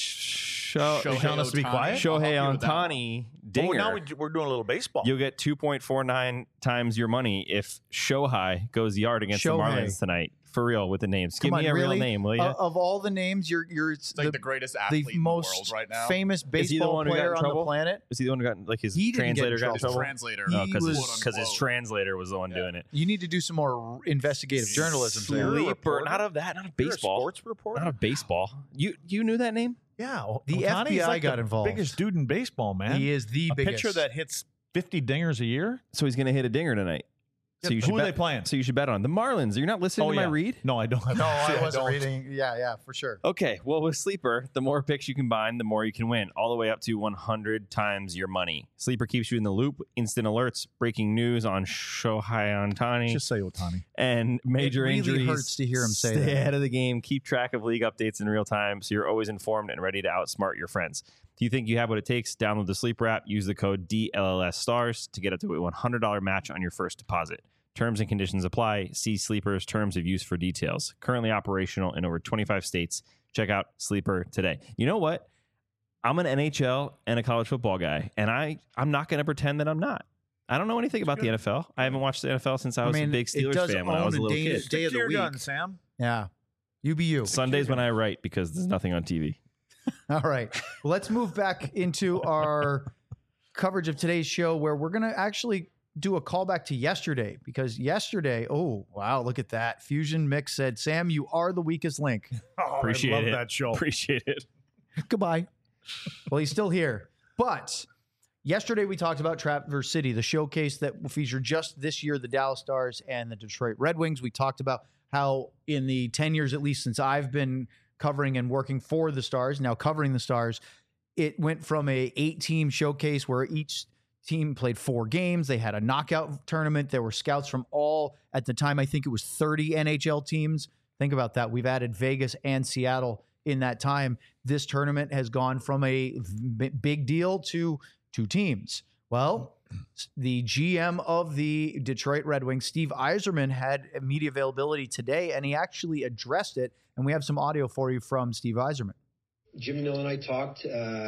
Shohei telling us to be Ohtani. quiet? I'll help Shohei you with that one. Ohtani Oh, dinger? now we're doing a little baseball. You'll get 2.49 times your money if Shohei goes yard against the Shohei. Marlins tonight. For real, with the names. Come Give me on, a really? real name, will you? Of all the names, you're It's like the greatest athlete in the most world right now. famous he the baseball one who got in player on the trouble? planet. Is he the one who got like his He didn't get in translator got in His trouble? translator. He Because was- his translator was the one doing it. You need to do some more investigative journalism. there. Sleeper, not of that, not of You're a baseball. sports reporter. Not of baseball. You knew that name? Yeah, The Ohtani's FBI like got the involved. Biggest dude in baseball, man. He is the a biggest. pitcher that hits 50 dingers a year. So he's going to hit a dinger tonight. So you should Who are bet, they playing? So you should bet on the Marlins. You're not listening to my read? No, I don't. No, I See, wasn't don't. reading. Yeah, for sure. Okay, well, with Sleeper, the more picks you combine, the more you can win, all the way up to 100 times your money. Sleeper keeps you in the loop, instant alerts, breaking news on Shohei Ohtani, Just say Ohtani. and major really injuries. hurts to hear him say Stay that. ahead of the game. Keep track of league updates in real time so you're always informed and ready to outsmart your friends. Do you think you have what it takes? Download the Sleeper app. Use the code DLLSSTARS to get up to a $100 match on your first deposit. Terms and conditions apply. See Sleeper's terms of use for details. Currently operational in over 25 states. Check out Sleeper today. You know what? I'm an NHL and a college football guy, and I'm not going to pretend that I'm not. I don't know anything about the NFL. I haven't watched the NFL since I was a big it Steelers does fan when I own was a little day, kid. day of the You're week. done, Sam. Yeah, you be you. Sundays when I write because there's nothing on TV. All right. Well, let's move back into our coverage of today's show where we're going to actually do a callback to yesterday because yesterday, oh, wow, look at that. Fusion Mix said, Sam, you are the weakest link. Oh, Appreciate I love it. that show. Appreciate it. Goodbye. Well, he's still here. But yesterday we talked about Traverse City, the showcase that will feature just this year the Dallas Stars and the Detroit Red Wings. We talked about how in the 10 years, at least since I've been covering and working for the Stars, now covering the Stars, it went from a 8-team showcase where each team played 4 games. They had a knockout tournament. There were scouts from all, at the time, I think it was 30 NHL teams. Think about that. We've added Vegas and Seattle in that time. This tournament has gone from a big deal to 2 teams. Well, the GM of the Detroit Red Wings, Steve Yzerman, had media availability today, and he actually addressed it. And we have some audio for you from Steve Yzerman. Jim Nill and I talked,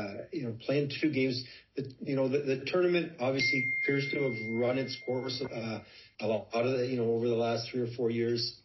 playing 2 games. The tournament obviously appears to have run its course a lot of the, over the last 3 or 4 years.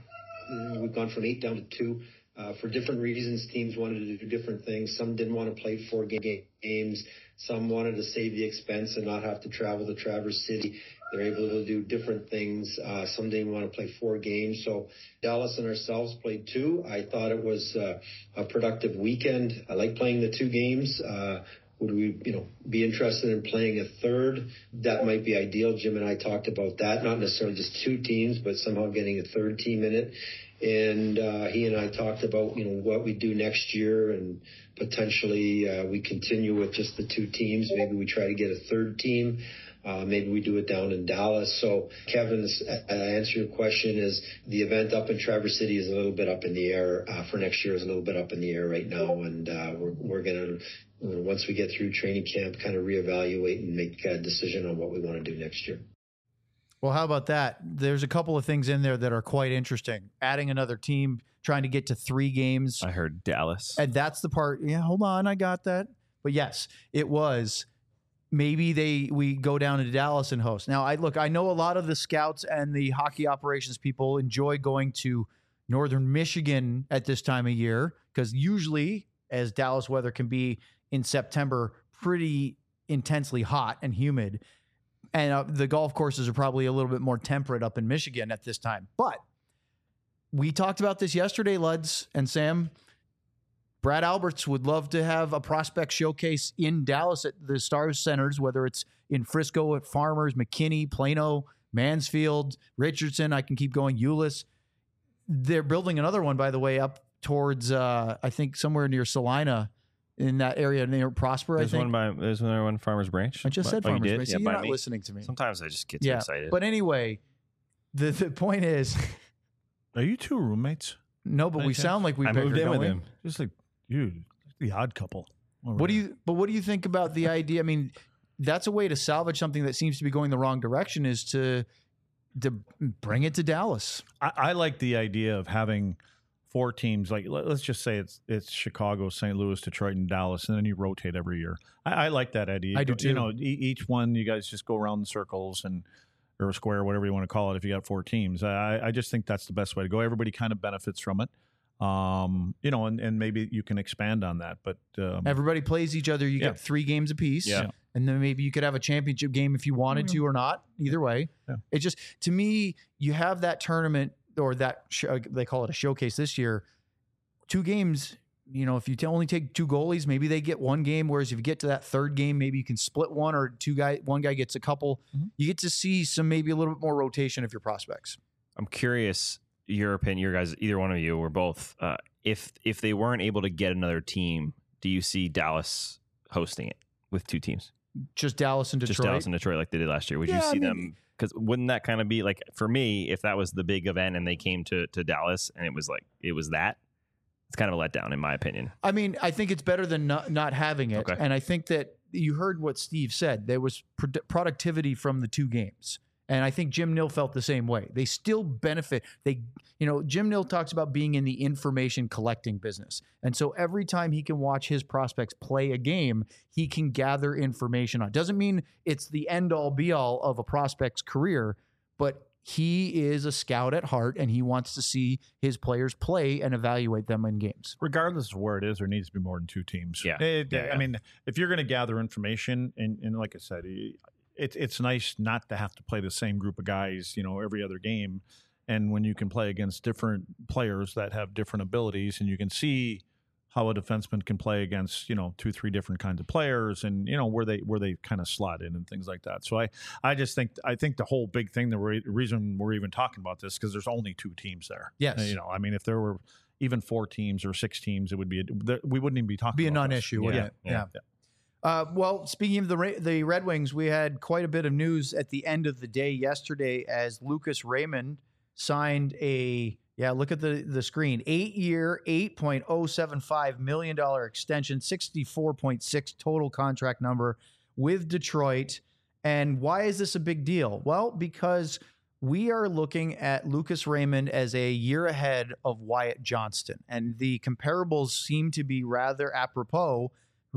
We've gone from 8 down to 2. For different reasons, teams wanted to do different things. Some didn't want to play 4 games. Some wanted to save the expense and not have to travel to Traverse City. They're able to do different things. Some didn't want to play 4 games. So Dallas and ourselves played 2. I thought it was a productive weekend. I like playing the 2 games. Would we, be interested in playing a third? That might be ideal. Jim and I talked about that. Not necessarily just 2 teams, but somehow getting a third team in it. And he and I talked about, what we do next year, and potentially we continue with just the 2 teams. Maybe we try to get a third team. Maybe we do it down in Dallas. So, Kevin's answer your question is the event up in Traverse City is a little bit up in the air. For next year is a little bit up in the air right now. And we're going to, once we get through training camp, kind of reevaluate and make a decision on what we want to do next year. Well, how about that? There's a couple of things in there that are quite interesting. Adding another team, trying to get to 3 games. I heard Dallas. And that's the part. Yeah, hold on. I got that. But yes, it was. Maybe we go down to Dallas and host. Now, I know a lot of the scouts and the hockey operations people enjoy going to northern Michigan at this time of year because usually, as Dallas weather can be in September, pretty intensely hot and humid. And the golf courses are probably a little bit more temperate up in Michigan at this time. But we talked about this yesterday, Luds and Sam. Brad Alberts would love to have a prospect showcase in Dallas at the Stars Centers, whether it's in Frisco at Farmers, McKinney, Plano, Mansfield, Richardson. I can keep going. Euless. They're building another one, by the way, up towards, I think, somewhere near Salina in that area near Prosper, There's I think. there's one Farmers Branch. I just said Oh, you Farmers did? Branch. Yeah, See, by you're not me. listening to me. Sometimes I just get too excited. But anyway, the point is, Are you 2 roommates? no, but we sound like we've I moved in with him. Just like, dude, the odd couple. What do you think about the idea? I mean, that's a way to salvage something that seems to be going the wrong direction, is to bring it to Dallas. I like the idea of having 4 teams. Like, let's just say it's Chicago, St. Louis, Detroit, and Dallas, and then you rotate every year. I like that idea. I do too. You know, each one, you guys just go around in circles or a square, whatever you want to call it. If you got 4 teams, I just think that's the best way to go. Everybody kind of benefits from it. You know, and maybe you can expand on that, but Everybody plays each other. You get 3 games apiece. Yeah. And then maybe you could have a championship game if you wanted to or not. Either way. Yeah. It just, to me, you have that tournament or that they call it a showcase this year. 2 games, you know, if you only take 2 goalies, maybe they get 1 game. Whereas if you get to that 3rd game, maybe you can split one, or one guy gets a couple. Mm-hmm. You get to see maybe a little bit more rotation of your prospects. I'm curious, your opinion, your guys, either one of you or both, if they weren't able to get another team, do you see Dallas hosting it with 2 teams? Just Dallas and Detroit. Just Dallas and Detroit like they did last year. Would you see them? Because wouldn't that kind of be like, for me, if that was the big event and they came to Dallas and it was that, it's kind of a letdown in my opinion. I mean, I think it's better than not having it. Okay. And I think that you heard what Steve said. There was productivity from the 2 games. And I think Jim Nill felt the same way. They still benefit. Jim Nill talks about being in the information collecting business. And so every time he can watch his prospects play a game, he can gather information on. Doesn't mean it's the end all be all of a prospect's career, but he is a scout at heart and he wants to see his players play and evaluate them in games. regardless of where it is, there needs to be more than 2 teams. Yeah. I mean, if you're going to gather information, and like I said, it's nice not to have to play the same group of guys, you know, every other game. And when you can play against different players that have different abilities, and you can see how a defenseman can play against, you know, 2-3 different kinds of players, and you know where they kind of slot in and things like that. So I think the whole big thing, the reason we're even talking about this, because there's only 2 teams there. Yes. You know, I mean, if there were even 4 teams or 6 teams, it would be we wouldn't even be talking. Be a about non-issue, this. wouldn't it? Yeah. Well, speaking of the Red Wings, we had quite a bit of news at the end of the day yesterday as Lucas Raymond signed look at the screen, 8-year, $8.075 million extension, 64.6 total contract number with Detroit. And why is this a big deal? Well, because we are looking at Lucas Raymond as a year ahead of Wyatt Johnston. And the comparables seem to be rather apropos.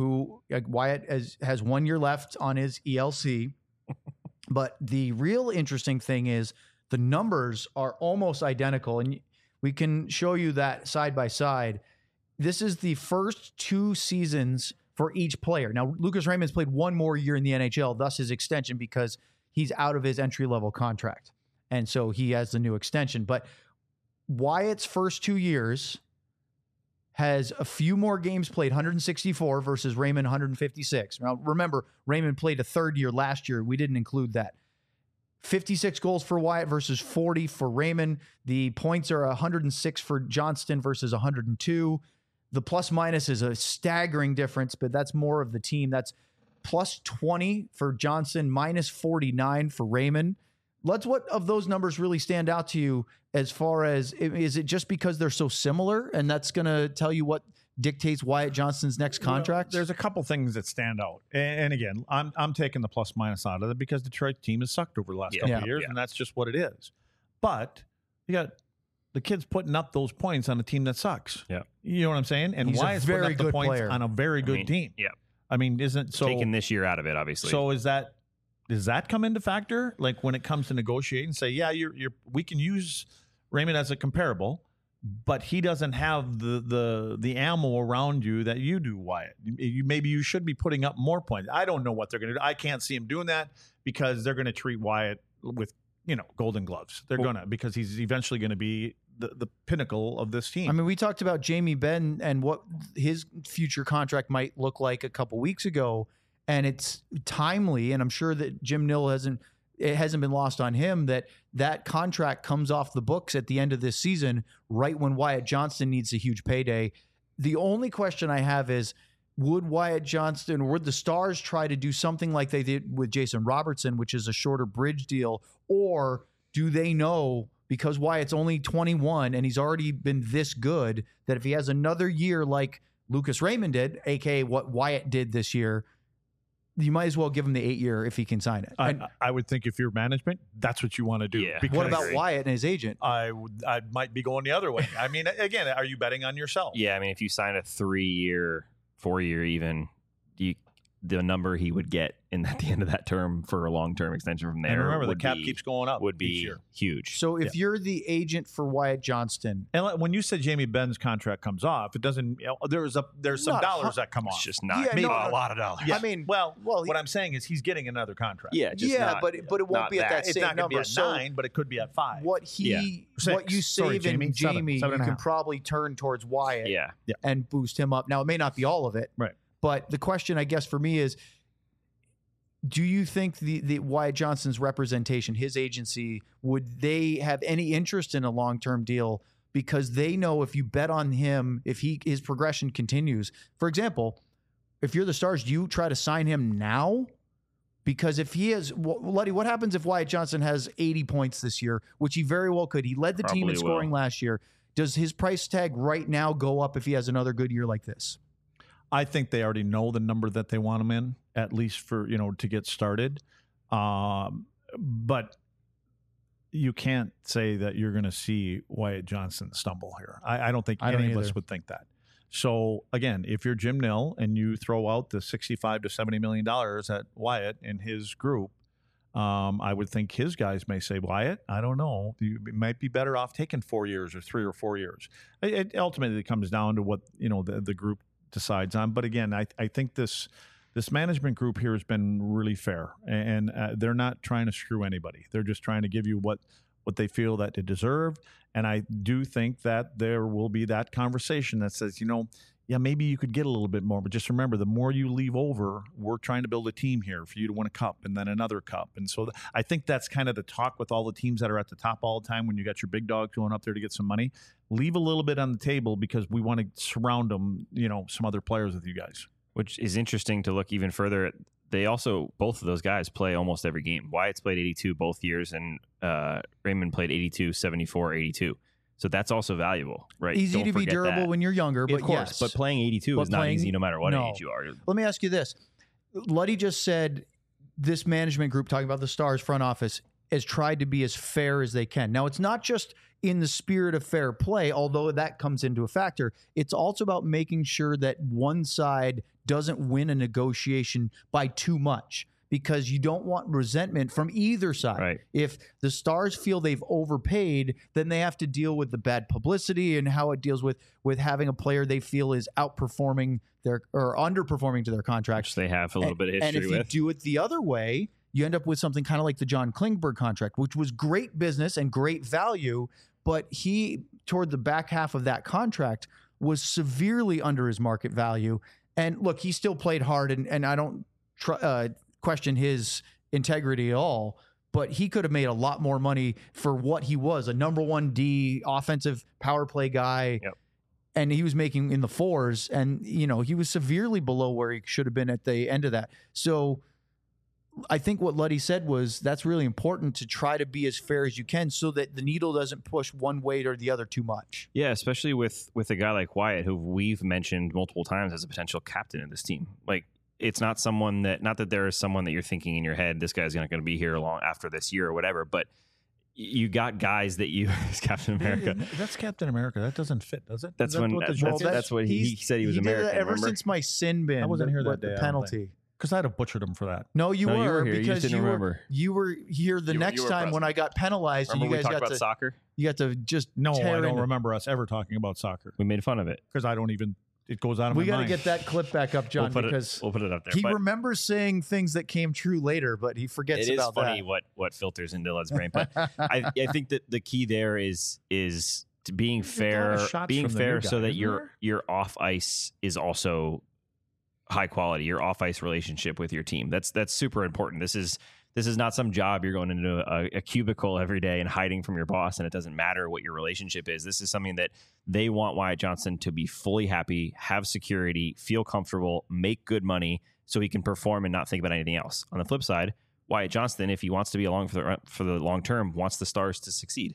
Wyatt has 1 year left on his ELC. But the real interesting thing is the numbers are almost identical. And we can show you that side by side. This is the first 2 seasons for each player. Now, Lucas Raymond's played 1 more year in the NHL, thus his extension, because he's out of his entry-level contract. And so he has the new extension. But Wyatt's first 2 years has a few more games played, 164 versus Raymond 156. Now, remember, Raymond played a 3rd year last year. We didn't include that. 56 goals for Wyatt versus 40 for Raymond. The points are 106 for Johnston versus 102. The plus minus is a staggering difference, but that's more of the team. That's plus 20 for Johnston, minus 49 for Raymond. What of those numbers really stand out to you as far as, is it just because they're so similar and that's going to tell you what dictates Wyatt Johnston's next contract? There's a couple things that stand out. And again, I'm taking the plus minus out of it because Detroit team has sucked over the last couple of years, and that's just what it is. But you got the kids putting up those points on a team that sucks. Yeah. You know what I'm saying? And He's Wyatt's a very putting up the good points player. on a very good team. Yeah. I mean, isn't so Taking this year out of it, obviously. So does that come into factor? Like when it comes to negotiating, say, yeah, we can use Raymond as a comparable, but he doesn't have the ammo around you that you do, Wyatt. Maybe you should be putting up more points. I don't know what they're going to do. I can't see him doing that because they're going to treat Wyatt with, golden gloves. They're going to, because he's eventually going to be the pinnacle of this team. I mean, we talked about Jamie Benn and what his future contract might look like a couple weeks ago, and it's timely, and I'm sure that Jim Nill hasn't been lost on him that contract comes off the books at the end of this season, right when Wyatt Johnston needs a huge payday. The only question I have is, would Wyatt Johnston, would the Stars try to do something like they did with Jason Robertson, which is a shorter bridge deal, or do they know, because Wyatt's only 21 and he's already been this good, that if he has another year like Lucas Raymond did, aka what Wyatt did this year, you might as well give him the 8-year if he can sign it. And I would think if you're management, that's what you want to do. Yeah. Because what about Wyatt and his agent? I might be going the other way. I mean, again, are you betting on yourself? Yeah, I mean, if you sign a 3-year, 4-year even, the number he would get at the end of that term for a long-term extension from there. And remember, the cap keeps going up. Would each be year. huge. So if you're the agent for Wyatt Johnston, And when you said Jamie Benn's contract comes off, it doesn't. There's some Not dollars that come It's off. just not. Yeah, Maybe no, a lot of dollars. I mean, well, well, what I'm saying is he's getting another contract. Yeah, just yeah, not, but it won't not be at that It's same not going to be number. at So 9, but it could be at 5. what you Six. Sorry, save in Jamie. Jamie, Seven and you a can half. probably turn towards Wyatt Yeah. and boost him up. Now, it may not be all of it, Right. but the question, I guess, for me is, do you think the Wyatt Johnston's representation, his agency, would they have any interest in a long-term deal because they know if you bet on him, if his progression continues, for example, if you're the Stars, do you try to sign him now? Because if he has, Luddy, what happens if Wyatt Johnston has 80 points this year, which he very well could? He led the team in Probably scoring last year. Does his price tag right now go up if he has another good year like this? I think they already know the number that they want him in, at least for to get started. But you can't say that you're going to see Wyatt Johnston stumble here. I don't think any of us would think that. So again, if you're Jim Nill and you throw out the $65 to $70 million at Wyatt and his group, I would think his guys may say, Wyatt, I don't know. You might be better off taking 4 years or 3 or 4 years. It ultimately comes down to what the group decides on. But again, I think this management group here has been really fair, and they're not trying to screw anybody. They're just trying to give you what they feel that they deserve. And I do think that there will be that conversation that says, maybe you could get a little bit more, but just remember, the more you leave over, we're trying to build a team here for you to win a cup and then another cup. And so I think that's kind of the talk with all the teams that are at the top all the time when you got your big dog going up there to get some money. Leave a little bit on the table because we want to surround them, some other players with you guys. Which is interesting to look even further at. They also, both of those guys play almost every game. Wyatt's played 82 both years, and Raymond played 82, 74, 82. So that's also valuable, right? Easy Don't to be forget durable that. when you're younger, but of course. yes. But playing 82 But is not easy no matter what no. age you are. Let me ask you this. Luddy just said this management group, talking about the Stars front office, has tried to be as fair as they can. Now, it's not just in the spirit of fair play, although that comes into a factor. It's also about making sure that one side doesn't win a negotiation by too much, because you don't want resentment from either side. Right. If the Stars feel they've overpaid, then they have to deal with the bad publicity and how it deals with having a player they feel is outperforming or underperforming to their contract. Which they have a little bit of history and if with. you do it the other way, you end up with something kind of like the John Klingberg contract, which was great business and great value, but he, toward the back half of that contract, was severely under his market value. And look, he still played hard, and I don't question his integrity at all, but he could have made a lot more money for what he was, a number 1D offensive power play guy. Yep. And he was making in the 4s, and he was severely below where he should have been at the end of that. So I think what Luddy said was that's really important, to try to be as fair as you can so that the needle doesn't push one way or the other too much. Yeah, especially with a guy like Wyatt, who we've mentioned multiple times as a potential captain of this team. Like, it's not that there is someone that you're thinking in your head, this guy's not going to be here long after this year or whatever, but you got guys that you as Captain America. That's Captain America. That doesn't fit, does it? That's what he said he was did American. that ever remember? since my sin bin. I wasn't here that the day, I don't penalty. Because I'd have butchered him for that. No, you No, you were were here. You because just didn't remember. You were here the You next were time present. when I got penalized. Remember and we you guys talked got about soccer? You got to just No, I tear don't into- remember us ever talking about soccer We made fun of it. because I don't even. It goes out of We my got to mind. get that clip back up, John, because we'll put it up there. he but remembers saying things that came true later, but he forgets it is about funny that. what filters into Lud's brain. But I think that the key there is to being There's a lot of fair, shots from the new so guy, that isn't your off ice is also high quality. Your off ice relationship with your team, that's super important. This is not some job you're going into a cubicle every day and hiding from your boss, and it doesn't matter what your relationship is. This is something that they want Wyatt Johnston to be fully happy, have security, feel comfortable, make good money, so he can perform and not think about anything else. On the flip side, Wyatt Johnston, if he wants to be along for the long term, wants the Stars to succeed.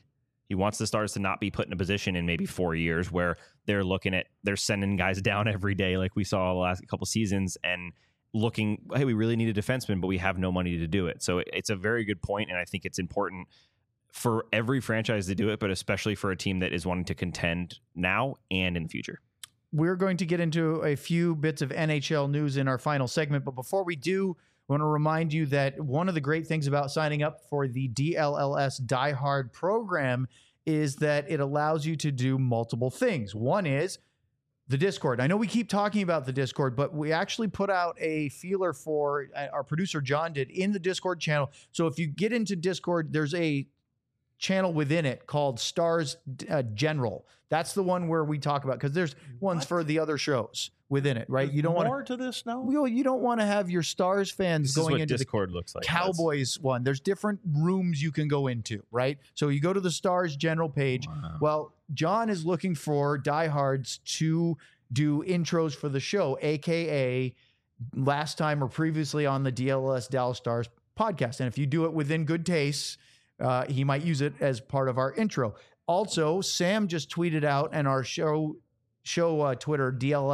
He wants the Stars to not be put in a position in maybe 4 years where they're sending guys down every day like we saw the last couple seasons and looking, hey, we really need a defenseman, but we have no money to do it. So it's a very good point, and I think it's important for every franchise to do it, but especially for a team that is wanting to contend now and in the future. We're going to get into a few bits of NHL news in our final segment, but before we do, I want to remind you that one of the great things about signing up for the DLLS Die Hard program is that it allows you to do multiple things. One is the Discord. I know we keep talking about the Discord, but we actually put out a feeler for, our producer John did, in the Discord channel. So if you get into Discord, there's a channel within it called Stars General. That's the one where we talk about, because there's ones for the other shows within it, right? There's you don't want more to this now. You don't want to have your Stars fans This is going what into Discord looks the like. Cowboys one. There's different rooms you can go into, right? So you go to the Stars General page. Wow. Well, John is looking for diehards to do intros for the show, aka last time or previously on the DLS Dallas Stars podcast. And if you do it within good taste, he might use it as part of our intro. Also, Sam just tweeted out, and our show Twitter,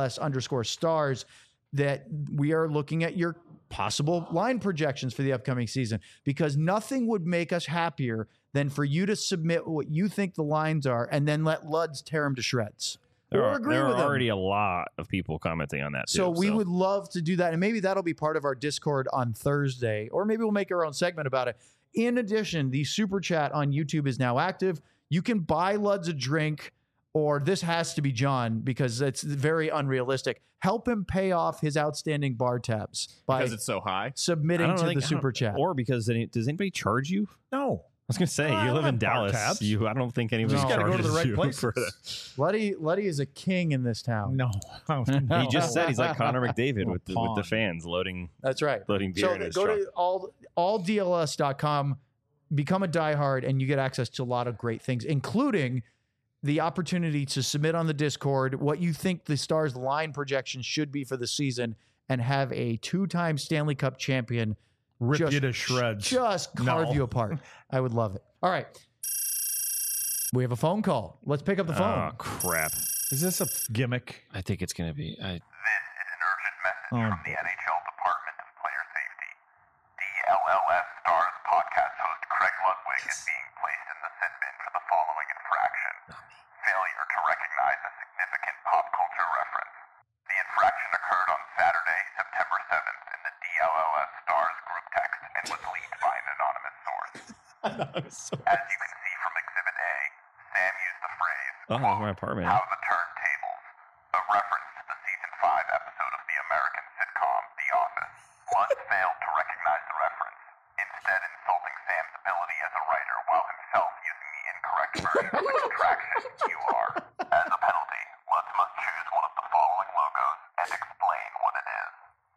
DLS_stars, that we are looking at your possible line projections for the upcoming season, because nothing would make us happier than for you to submit what you think the lines are and then let Luds tear them to shreds. There Or are, agree there with are them. already a lot of people commenting on that too. So we would love to do that. And maybe that'll be part of our Discord on Thursday, or maybe we'll make our own segment about it. In addition, the super chat on YouTube is now active. You can buy Luds a drink, or this has to be John because it's very unrealistic. Help him pay off his outstanding bar tabs by Because it's so high. submitting to the super chat. Or because does anybody charge you? No. I was going to say, I you live don't in have bar Dallas. tabs. I don't think anybody You just gotta charges go to the right you places. for that. Luddy is a king in this town. No. He just said he's like Connor McDavid with the Pawn. fans loading That's right. beer So in his go truck. to alldls.com, become a diehard, and you get access to a lot of great things, including the opportunity to submit on the Discord what you think the Stars line projection should be for the season, and have a 2-time Stanley Cup champion Rip you to shreds. just carve No. you apart. I would love it. All right. We have a phone call. Let's pick up the phone. Oh, crap. Is this a gimmick? I think it's going to be. This is an urgent message Oh, from the NHL Department of Player Safety. DLLS Stars podcast host Craig Ludwig is being placed in the sin bin for the following infraction. Failure to recognize a significant pop culture reference. The infraction occurred on Saturday, September 7th in the DLLS Stars group text and was leaked by an anonymous source. As you can see from Exhibit A, Sam used the phrase, Oh, that's my apartment. "How the turntables," a reference to the season 5 episode of the American sitcom The Office. Lutz failed to recognize the reference, instead insulting Sam's ability as a writer while himself using the incorrect version of the contraction QR. As a penalty, Lutz must choose one of the following logos and explain what it is.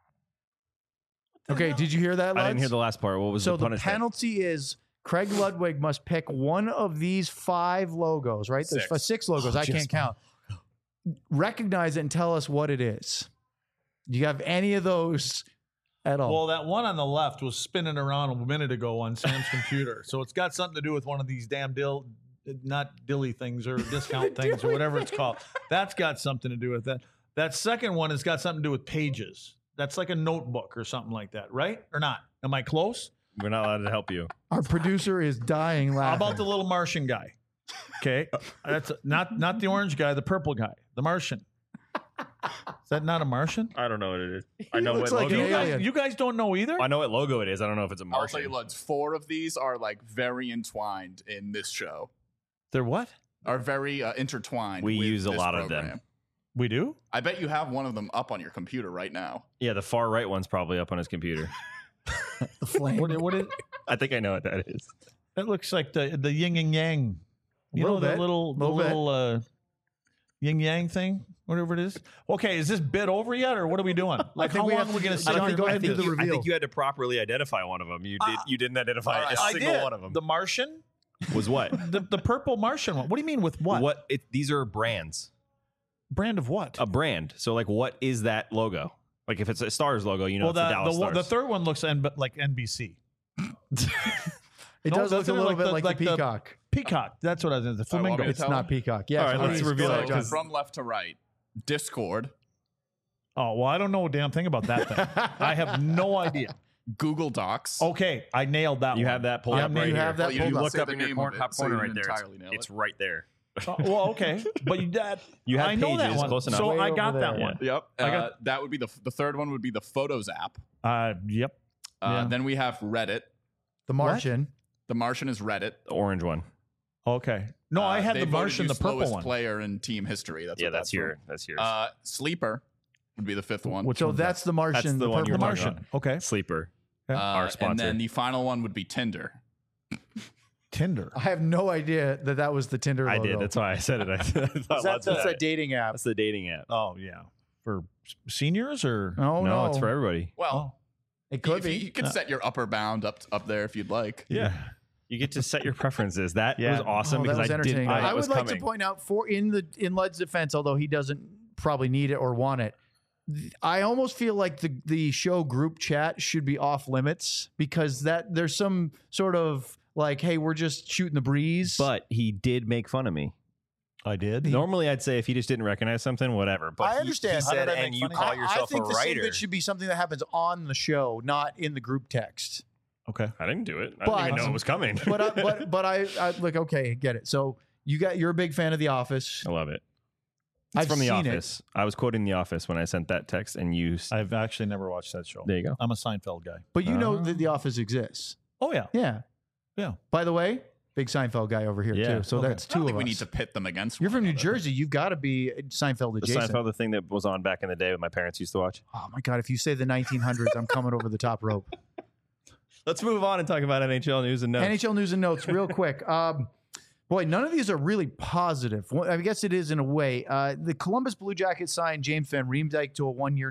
Okay, did you hear that, I didn't hear Luds? the last part. What was So the the punishment? penalty is Craig Ludwig must pick one of these 5 logos, right? There's 6 logos. I can't count. Recognize it and tell us what it is. Do you have any of those at all? Well, that one on the left was spinning around a minute ago on Sam's computer. So it's got something to do with one of these damn not dilly things or discount things or whatever it's called. That's got something to do with that. That second one has got something to do with pages. That's like a notebook or something like that, right? Or not? Am I close? We're not allowed to help you. Our producer is dying How laughing. about the little Martian guy? Okay, that's not the orange guy, the purple guy, the Martian. Is that not a Martian? I don't know what it is. He looks like an alien. You guys don't know either? I know what logo it is. I don't know if it's a I'll tell you, Martian. Luds, 4 of these are like very entwined in this show. They're what? Are very intertwined. We with use a this lot of them. program. We do? I bet you have one of them up on your computer right now. Yeah, the far right one's probably up on his computer. the flame. What is, I think I know what that is. that looks like the yin and yang. You Little know that bit. little yin yang thing, whatever it is. Okay, is this bit over yet, or what are we doing? Like, think how we long have are we to going do- to sit Johnny, here? go ahead and do the I reveal. think you had to properly identify one of them. You did. You didn't identify a I single did. one of them. The Martian, Was what? the purple Martian one. What do you mean with what? What? These are brands. Brand of what? A brand. So, like, what is that logo? Like, if it's a Stars logo, you know, it's the Dallas Stars. the third one looks like NBC. It No, does look a doesn't it? little Like bit the- like like the the- peacock. Peacock. That's what I was. The want me flamingo. to It's tell not him? Peacock. Yeah, All right, let's reveal it. So from left to right, Discord, Oh well, I don't know a damn thing about that thing. I have no idea. Google Docs. Okay, I nailed that. You one. have that pulled Yeah, up you right have here. that you pulled didn't up. Look say up the in your name corner, of it, top so corner you right didn't there. entirely nail It's it. right there. Well, okay, but You I had know that pages, one. close enough. So Way I over got that there. one. Yep. I got- That would be the third one would be the Photos app. Yep. Yeah. Then we have Reddit. The Martian. The Martian is Reddit. The orange one. Okay. No, I had They the voted Martian, you the purple slowest one. player in team history. That's Yeah, what that's from. That's yours. Sleeper would be the fifth one. Which So one's that's the Martian. That's the one purple you're the talking Martian. Okay. Sleeper. Okay. our sponsor. And then the final one would be Tinder. Tinder. I have no idea that was the Tinder I logo. did. That's why I said it. I thought That's lots of a that. dating app. That's the dating app. Oh yeah. For seniors or Oh, no, it's for everybody. Well, It could if be. you could set your upper bound up there if you'd like. yeah. You get to set your preferences. That Yeah. was awesome Oh, that because was I didn't entertaining. know that I was would like coming. to point out in Lud's defense, although he doesn't probably need it or want it, I almost feel like the show group chat should be off limits because that there's some sort of like, hey, we're just shooting the breeze. But he did make fun of me. I did. Normally, I'd say if he just didn't recognize something, whatever. But I understand. He How said, did I and make you fun of call you?" yourself I think a the same writer. bit should be something that happens on the show, not in the group text. Okay. I didn't do it. I But- didn't even know it was coming. But I like, okay, get it. So you're a big fan of The Office. I love it. It's I've from The seen it. Office. I was quoting The Office when I sent that text, and you. I've actually never watched that show. There you go. I'm a Seinfeld guy. But you know that The Office exists. Oh yeah. Yeah. Yeah. By the way, big Seinfeld guy over here Yeah. too. So Okay. that's I don't two think of we us. need to pit them against You're one from New another. Jersey. You've got to be Seinfeld The adjacent. Seinfeld, the thing that was on back in the day that my parents used to watch. Oh my god! If you say the 1900s, I'm coming over the top rope. Let's move on and talk about NHL news and notes. NHL news and notes, real quick. Boy, none of these are really positive. Well, I guess it is in a way. The Columbus Blue Jackets signed James Van Riemdijk to a 1-year,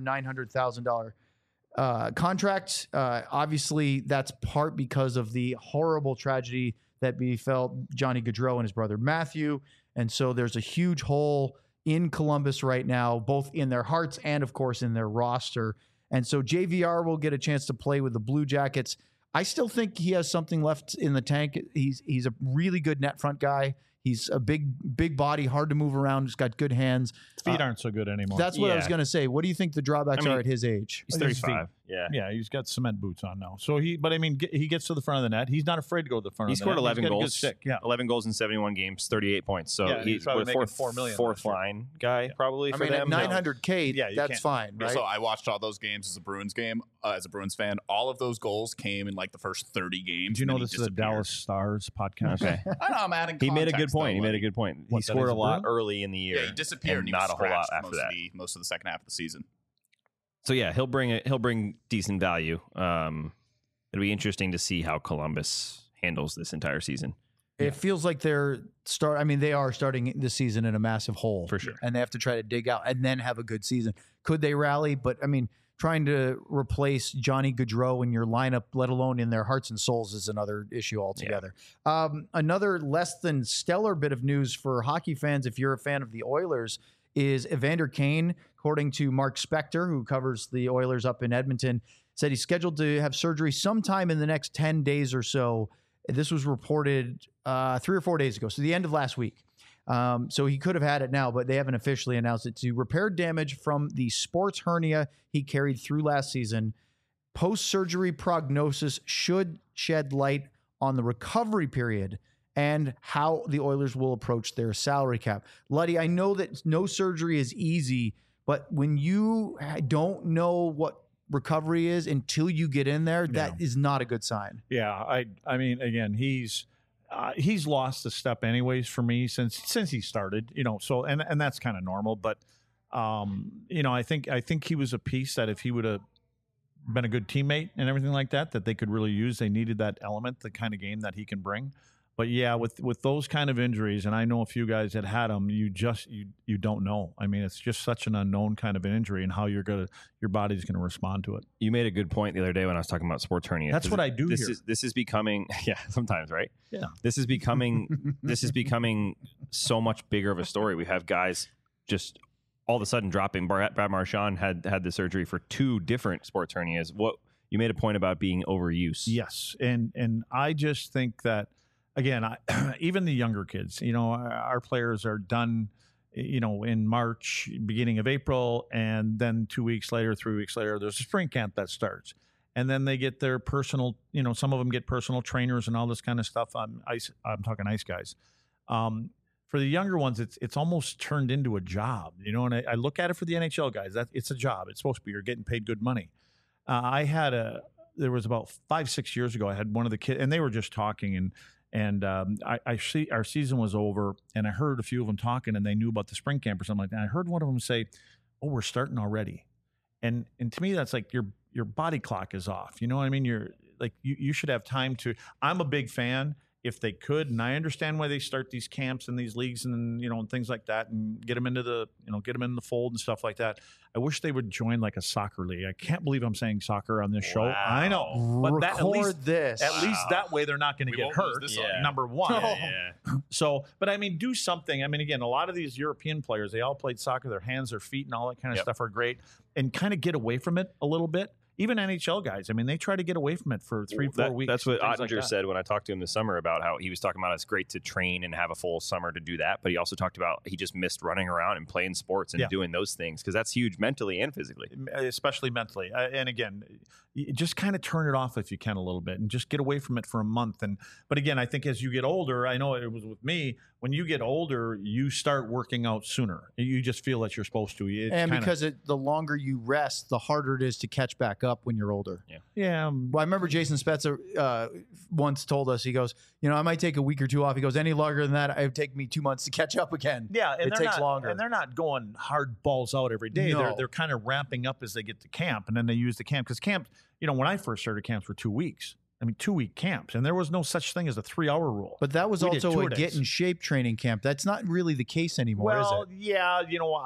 $900,000 contract. Obviously, that's part because of the horrible tragedy that befell Johnny Gaudreau and his brother Matthew. And so there's a huge hole in Columbus right now, both in their hearts and, of course, in their roster. And so JVR will get a chance to play with the Blue Jackets. I still think he has something left in the tank. He's a really good net front guy. He's a big body, hard to move around. He's got good hands. His feet aren't so good anymore. That's what I was Yeah. going to say. What do you think the drawbacks I mean, are at his age? He's His 35. Yeah. yeah, he's got cement boots on now. So he gets to the front of the net. He's not afraid to go to the front He of the scored net. 11 He's got a good goals. stick. Yeah. 11 goals in 71 games, 38 points. So Yeah, he's he's probably what, making fourth, $4 million fourth last year. line guy probably I for mean, at them. 900K, Yeah, you that's can't. fine, right? So I watched all those games as a Bruins game, as a Bruins fan. All of those goals came in like the first 30 games. Do you and know then he this is a disappeared. Dallas Stars podcast? Okay. I know, I'm adding He made a good context, point. though, He made a like- good point. He What, that scored he's a a lot Bruin? early in the year. Yeah, he disappeared and and he not was a whole lot scratched after that. most of the second half of the season. So yeah, he'll bring decent value. It'll be interesting to see how Columbus handles this entire season. It feels like they are starting this season in a massive hole. For sure. And they have to try to dig out and then have a good season. Could they rally? But I mean, trying to replace Johnny Gaudreau in your lineup, let alone in their hearts and souls, is another issue altogether. Another less than stellar bit of news for hockey fans, if you're a fan of the Oilers, is Evander Kane, according to Mark Spector, who covers the Oilers up in Edmonton, said he's scheduled to have surgery sometime in the next 10 days or so. This was reported 3 or 4 days ago, so the end of last week. So he could have had it now, but they haven't officially announced it. To repair damage from the sports hernia he carried through last season, post-surgery prognosis should shed light on the recovery period and how the Oilers will approach their salary cap. Luddy, I know that no surgery is easy, but when you don't know what recovery is until you get in there, that is not a good sign. Yeah, I mean, again, he's lost a step anyways for me since he started, so and that's kind of normal, but I think he was a piece that if he would have been a good teammate and everything like that they could really use. They needed that element, the kind of game that he can bring. But yeah, with those kind of injuries, and I know a few guys that had them, you don't know. I mean, it's just such an unknown kind of an injury, and how your body's gonna respond to it. You made a good point the other day when I was talking about sports hernia. That's what I do this here. This is becoming sometimes, right? Yeah. This is becoming so much bigger of a story. We have guys just all of a sudden dropping. Brad Marchand had the surgery for 2 different sports hernias. What you made a point about being overuse. Yes, and I just think that again, even the younger kids, our players are done, in March, beginning of April, and then 2 weeks later, 3 weeks later, there's a spring camp that starts. And then they get their personal, some of them get personal trainers and all this kind of stuff. I'm talking ice guys. For the younger ones, it's almost turned into a job, and I look at it for the NHL guys. It's a job. It's supposed to be. You're getting paid good money. There was about 5-6 years ago, I had one of the kids, and they were just talking, and I see our season was over, and I heard a few of them talking, and they knew about the spring camp or something like that. And I heard one of them say, "Oh, we're starting already," and to me, that's like your body clock is off. You know what I mean? You're like you should have time to. I'm a big fan. If they could, and I understand why they start these camps and these leagues and and things like that, and get them into the the fold and stuff like that. I wish they would join like a soccer league. I can't believe I'm saying soccer on this show. I know, but Record at least Wow. that way they're not going to We get won't lose hurt. this audience. Number one. Yeah. So, but I mean, do something. I mean, again, a lot of these European players, they all played soccer. Their hands, their feet, and all that kind of stuff are great, and kind of get away from it a little bit. Even NHL guys, I mean, they try to get away from it for 3-4 weeks. That's what things like Ottinger that. said when I talked to him this summer about how he was talking about it's great to train and have a full summer to do that. But he also talked about he just missed running around and playing sports and doing those things because that's huge mentally and physically. Especially mentally. And again, you just kind of turn it off if you can a little bit and just get away from it for a month. But again, I think as you get older, I know it was with me, when you get older, you start working out sooner. You just feel that you're supposed to. Because the longer you rest, the harder it is to catch back up when you're older. Yeah. Well, I remember Jason Spezza once told us, he goes, I might take a week or two off. He goes, any longer than that, it would take me 2 months to catch up again. Yeah, and it takes longer. And they're not going hard balls out every day. No. They're kind of ramping up as they get to camp, and then they use the camp. Because camp, when I first started, camps were 2 weeks. I mean, 2-week camps, and there was no such thing as a 3-hour rule. But that was We did also a tour days. get in shape training camp. That's not really the case anymore, is it? Yeah,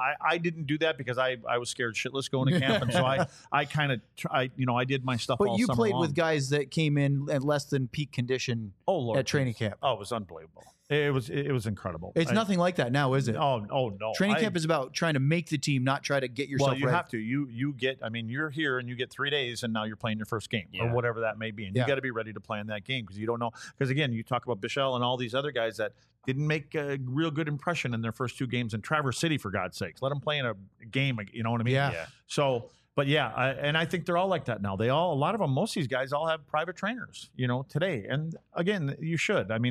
I didn't do that because I was scared shitless going to camp, and so I kind of I did my stuff. But all you summer played long. with guys that came in at less than peak condition Lord, at training camp. Oh, it was unbelievable. It was incredible. It's nothing like that now, is it? Oh no. Training camp is about trying to make the team, not try to get yourself Well, you ready. have to. You get. I mean, you're here and you get 3 days, and now you're playing your first game or Yeah. whatever that may be, and Yeah. you got to be ready to play in that game because you don't know. Because again, you talk about Bichelle and all these other guys that didn't make a real good impression in their first 2 games in Traverse City, for God's sakes. Let them play in a game. You know what I mean? Yeah. So. But yeah, and I think they're all like that now. A lot of them, most of these guys, all have private trainers, today. And again, you should. I mean,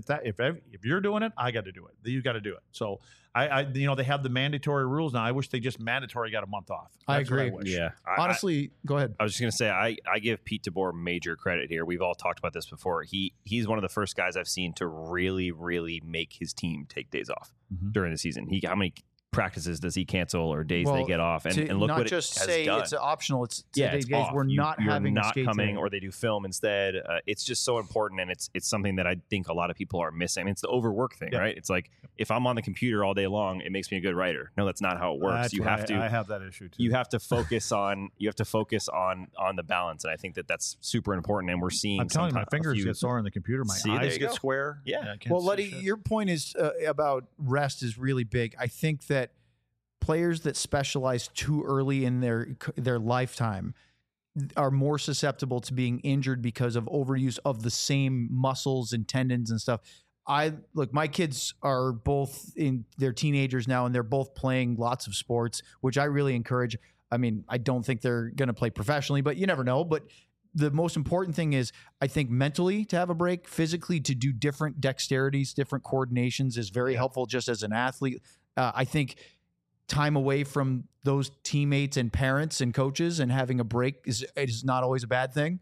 if you're doing it, I got to do it. You got to do it. So they have the mandatory rules now. I wish they just mandatory got a month off. I That's what agree. wish. Yeah. Honestly, go ahead. I was just going to say, I give Pete DeBoer major credit here. We've all talked about this before. He's one of the first guys I've seen to really, really make his team take days off during the season. How many practices does he cancel or days they get off? And look not what just it has say done. it's optional. It's It's days off. we're not You're having a not skate coming, today. or they do film instead. It's just so important, and it's something that I think a lot of people are missing. I mean, it's the overwork thing, right? It's like if I'm on the computer all day long, it makes me a good writer. No, that's not how it works. That's You what have to. I have that issue too. You have to focus on. You have to focus on the balance, and I think that's super important. And we're seeing. I'm telling you, my sometimes a fingers few- get sore on the computer. My See, there eyes you get go. square. Yeah. I can't Well, see Letty, shit. your point is about rest is really big. I think that players that specialize too early in their lifetime are more susceptible to being injured because of overuse of the same muscles and tendons and stuff. My kids are both they're teenagers now, and they're both playing lots of sports, which I really encourage. I mean, I don't think they're going to play professionally, but you never know. But the most important thing is, I think mentally to have a break, physically to do different dexterities, different coordinations is very helpful just as an athlete. I think time away from those teammates and parents and coaches and having a break is not always a bad thing,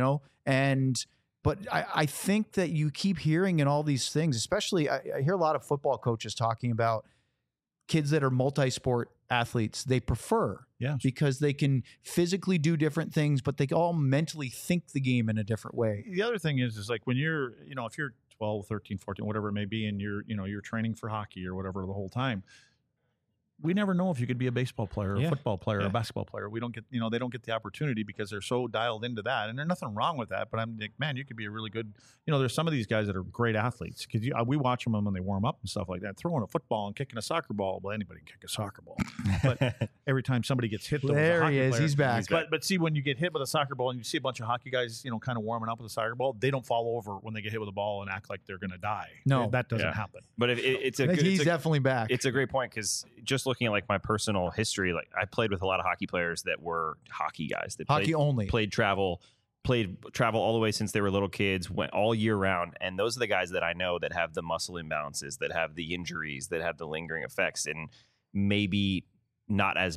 but I think that you keep hearing in all these things, especially I hear a lot of football coaches talking about kids that are multi-sport athletes. They prefer because they can physically do different things, but they all mentally think the game in a different way. The other thing is like when you're, if you're 12, 13, 14, whatever it may be, and you're training for hockey or whatever the whole time, we never know if you could be a baseball player, or a Yeah. football player, or Yeah. a basketball player. We don't get, they don't get the opportunity because they're so dialed into that. And there's nothing wrong with that. But I'm like, man, you could be a really good, there's some of these guys that are great athletes because we watch them when they warm up and stuff like that, throwing a football and kicking a soccer ball. Well, anybody can kick a soccer ball. But every time somebody gets hit, though, with a There hockey he is. player- He's back. But see, when you get hit with a soccer ball and you see a bunch of hockey guys, kind of warming up with a soccer ball, they don't fall over when they get hit with a ball and act like they're going to die. No. That doesn't Yeah. happen. But if it's I a think good, he's it's a- definitely back. It's a great point because just looking at like my personal history, like I played with a lot of hockey players that were hockey guys that Hockey only. played travel all the way since they were little kids, went all year round, and those are the guys that I know that have the muscle imbalances, that have the injuries, that have the lingering effects, and maybe not as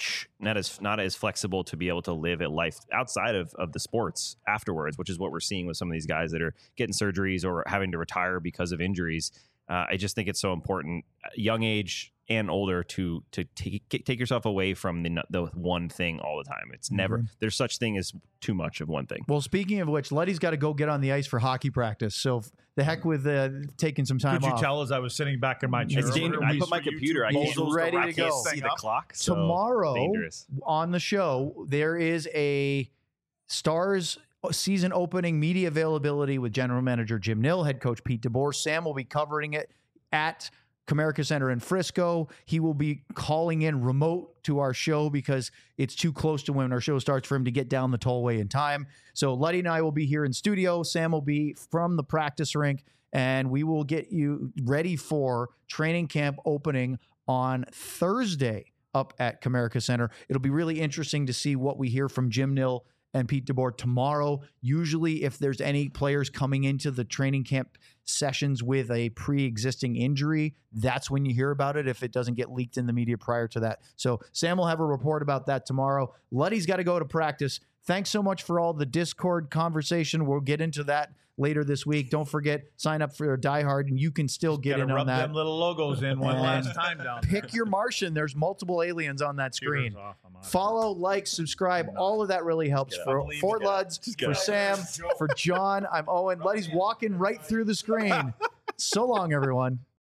flexible to be able to live a life outside of the sports afterwards, which is what we're seeing with some of these guys that are getting surgeries or having to retire because of injuries. I just think it's so important, young age and older, to take yourself away from the one thing all the time. It's never there's such thing as too much of one thing. Well, speaking of which, Letty's got to go get on the ice for hockey practice. So the heck with taking some time Could you off. tell as I was sitting back in my chair? It's dangerous. I put my computer. I He's can't ready to I can't go. see the clock. So Tomorrow dangerous. on the show, there is a Stars season opening media availability with general manager Jim Nill, head coach Pete DeBoer. Sam will be covering it at Comerica Center in Frisco. He will be calling in remote to our show because it's too close to when our show starts for him to get down the tollway in time. So Letty and I will be here in studio. Sam will be from the practice rink, and we will get you ready for training camp opening on Thursday up at Comerica Center. It'll be really interesting to see what we hear from Jim Nill and Pete DeBoer tomorrow. Usually, if there's any players coming into the training camp sessions with a pre-existing injury, that's when you hear about it, if it doesn't get leaked in the media prior to that. So Sam will have a report about that tomorrow. Letty's got to go to practice. Thanks so much for all the Discord conversation. We'll get into that later this week. Don't forget, sign up for Die Hard, and you can still get Gotta in on rub that. them little logos in one And last time down there. Pick your Martian. There's multiple aliens on that screen. Computer's off. I'm out. Follow, like, subscribe. All of that really helps. For Luds, for Sam, for John, I'm Owen. Letty's walking right through the screen. So long, everyone.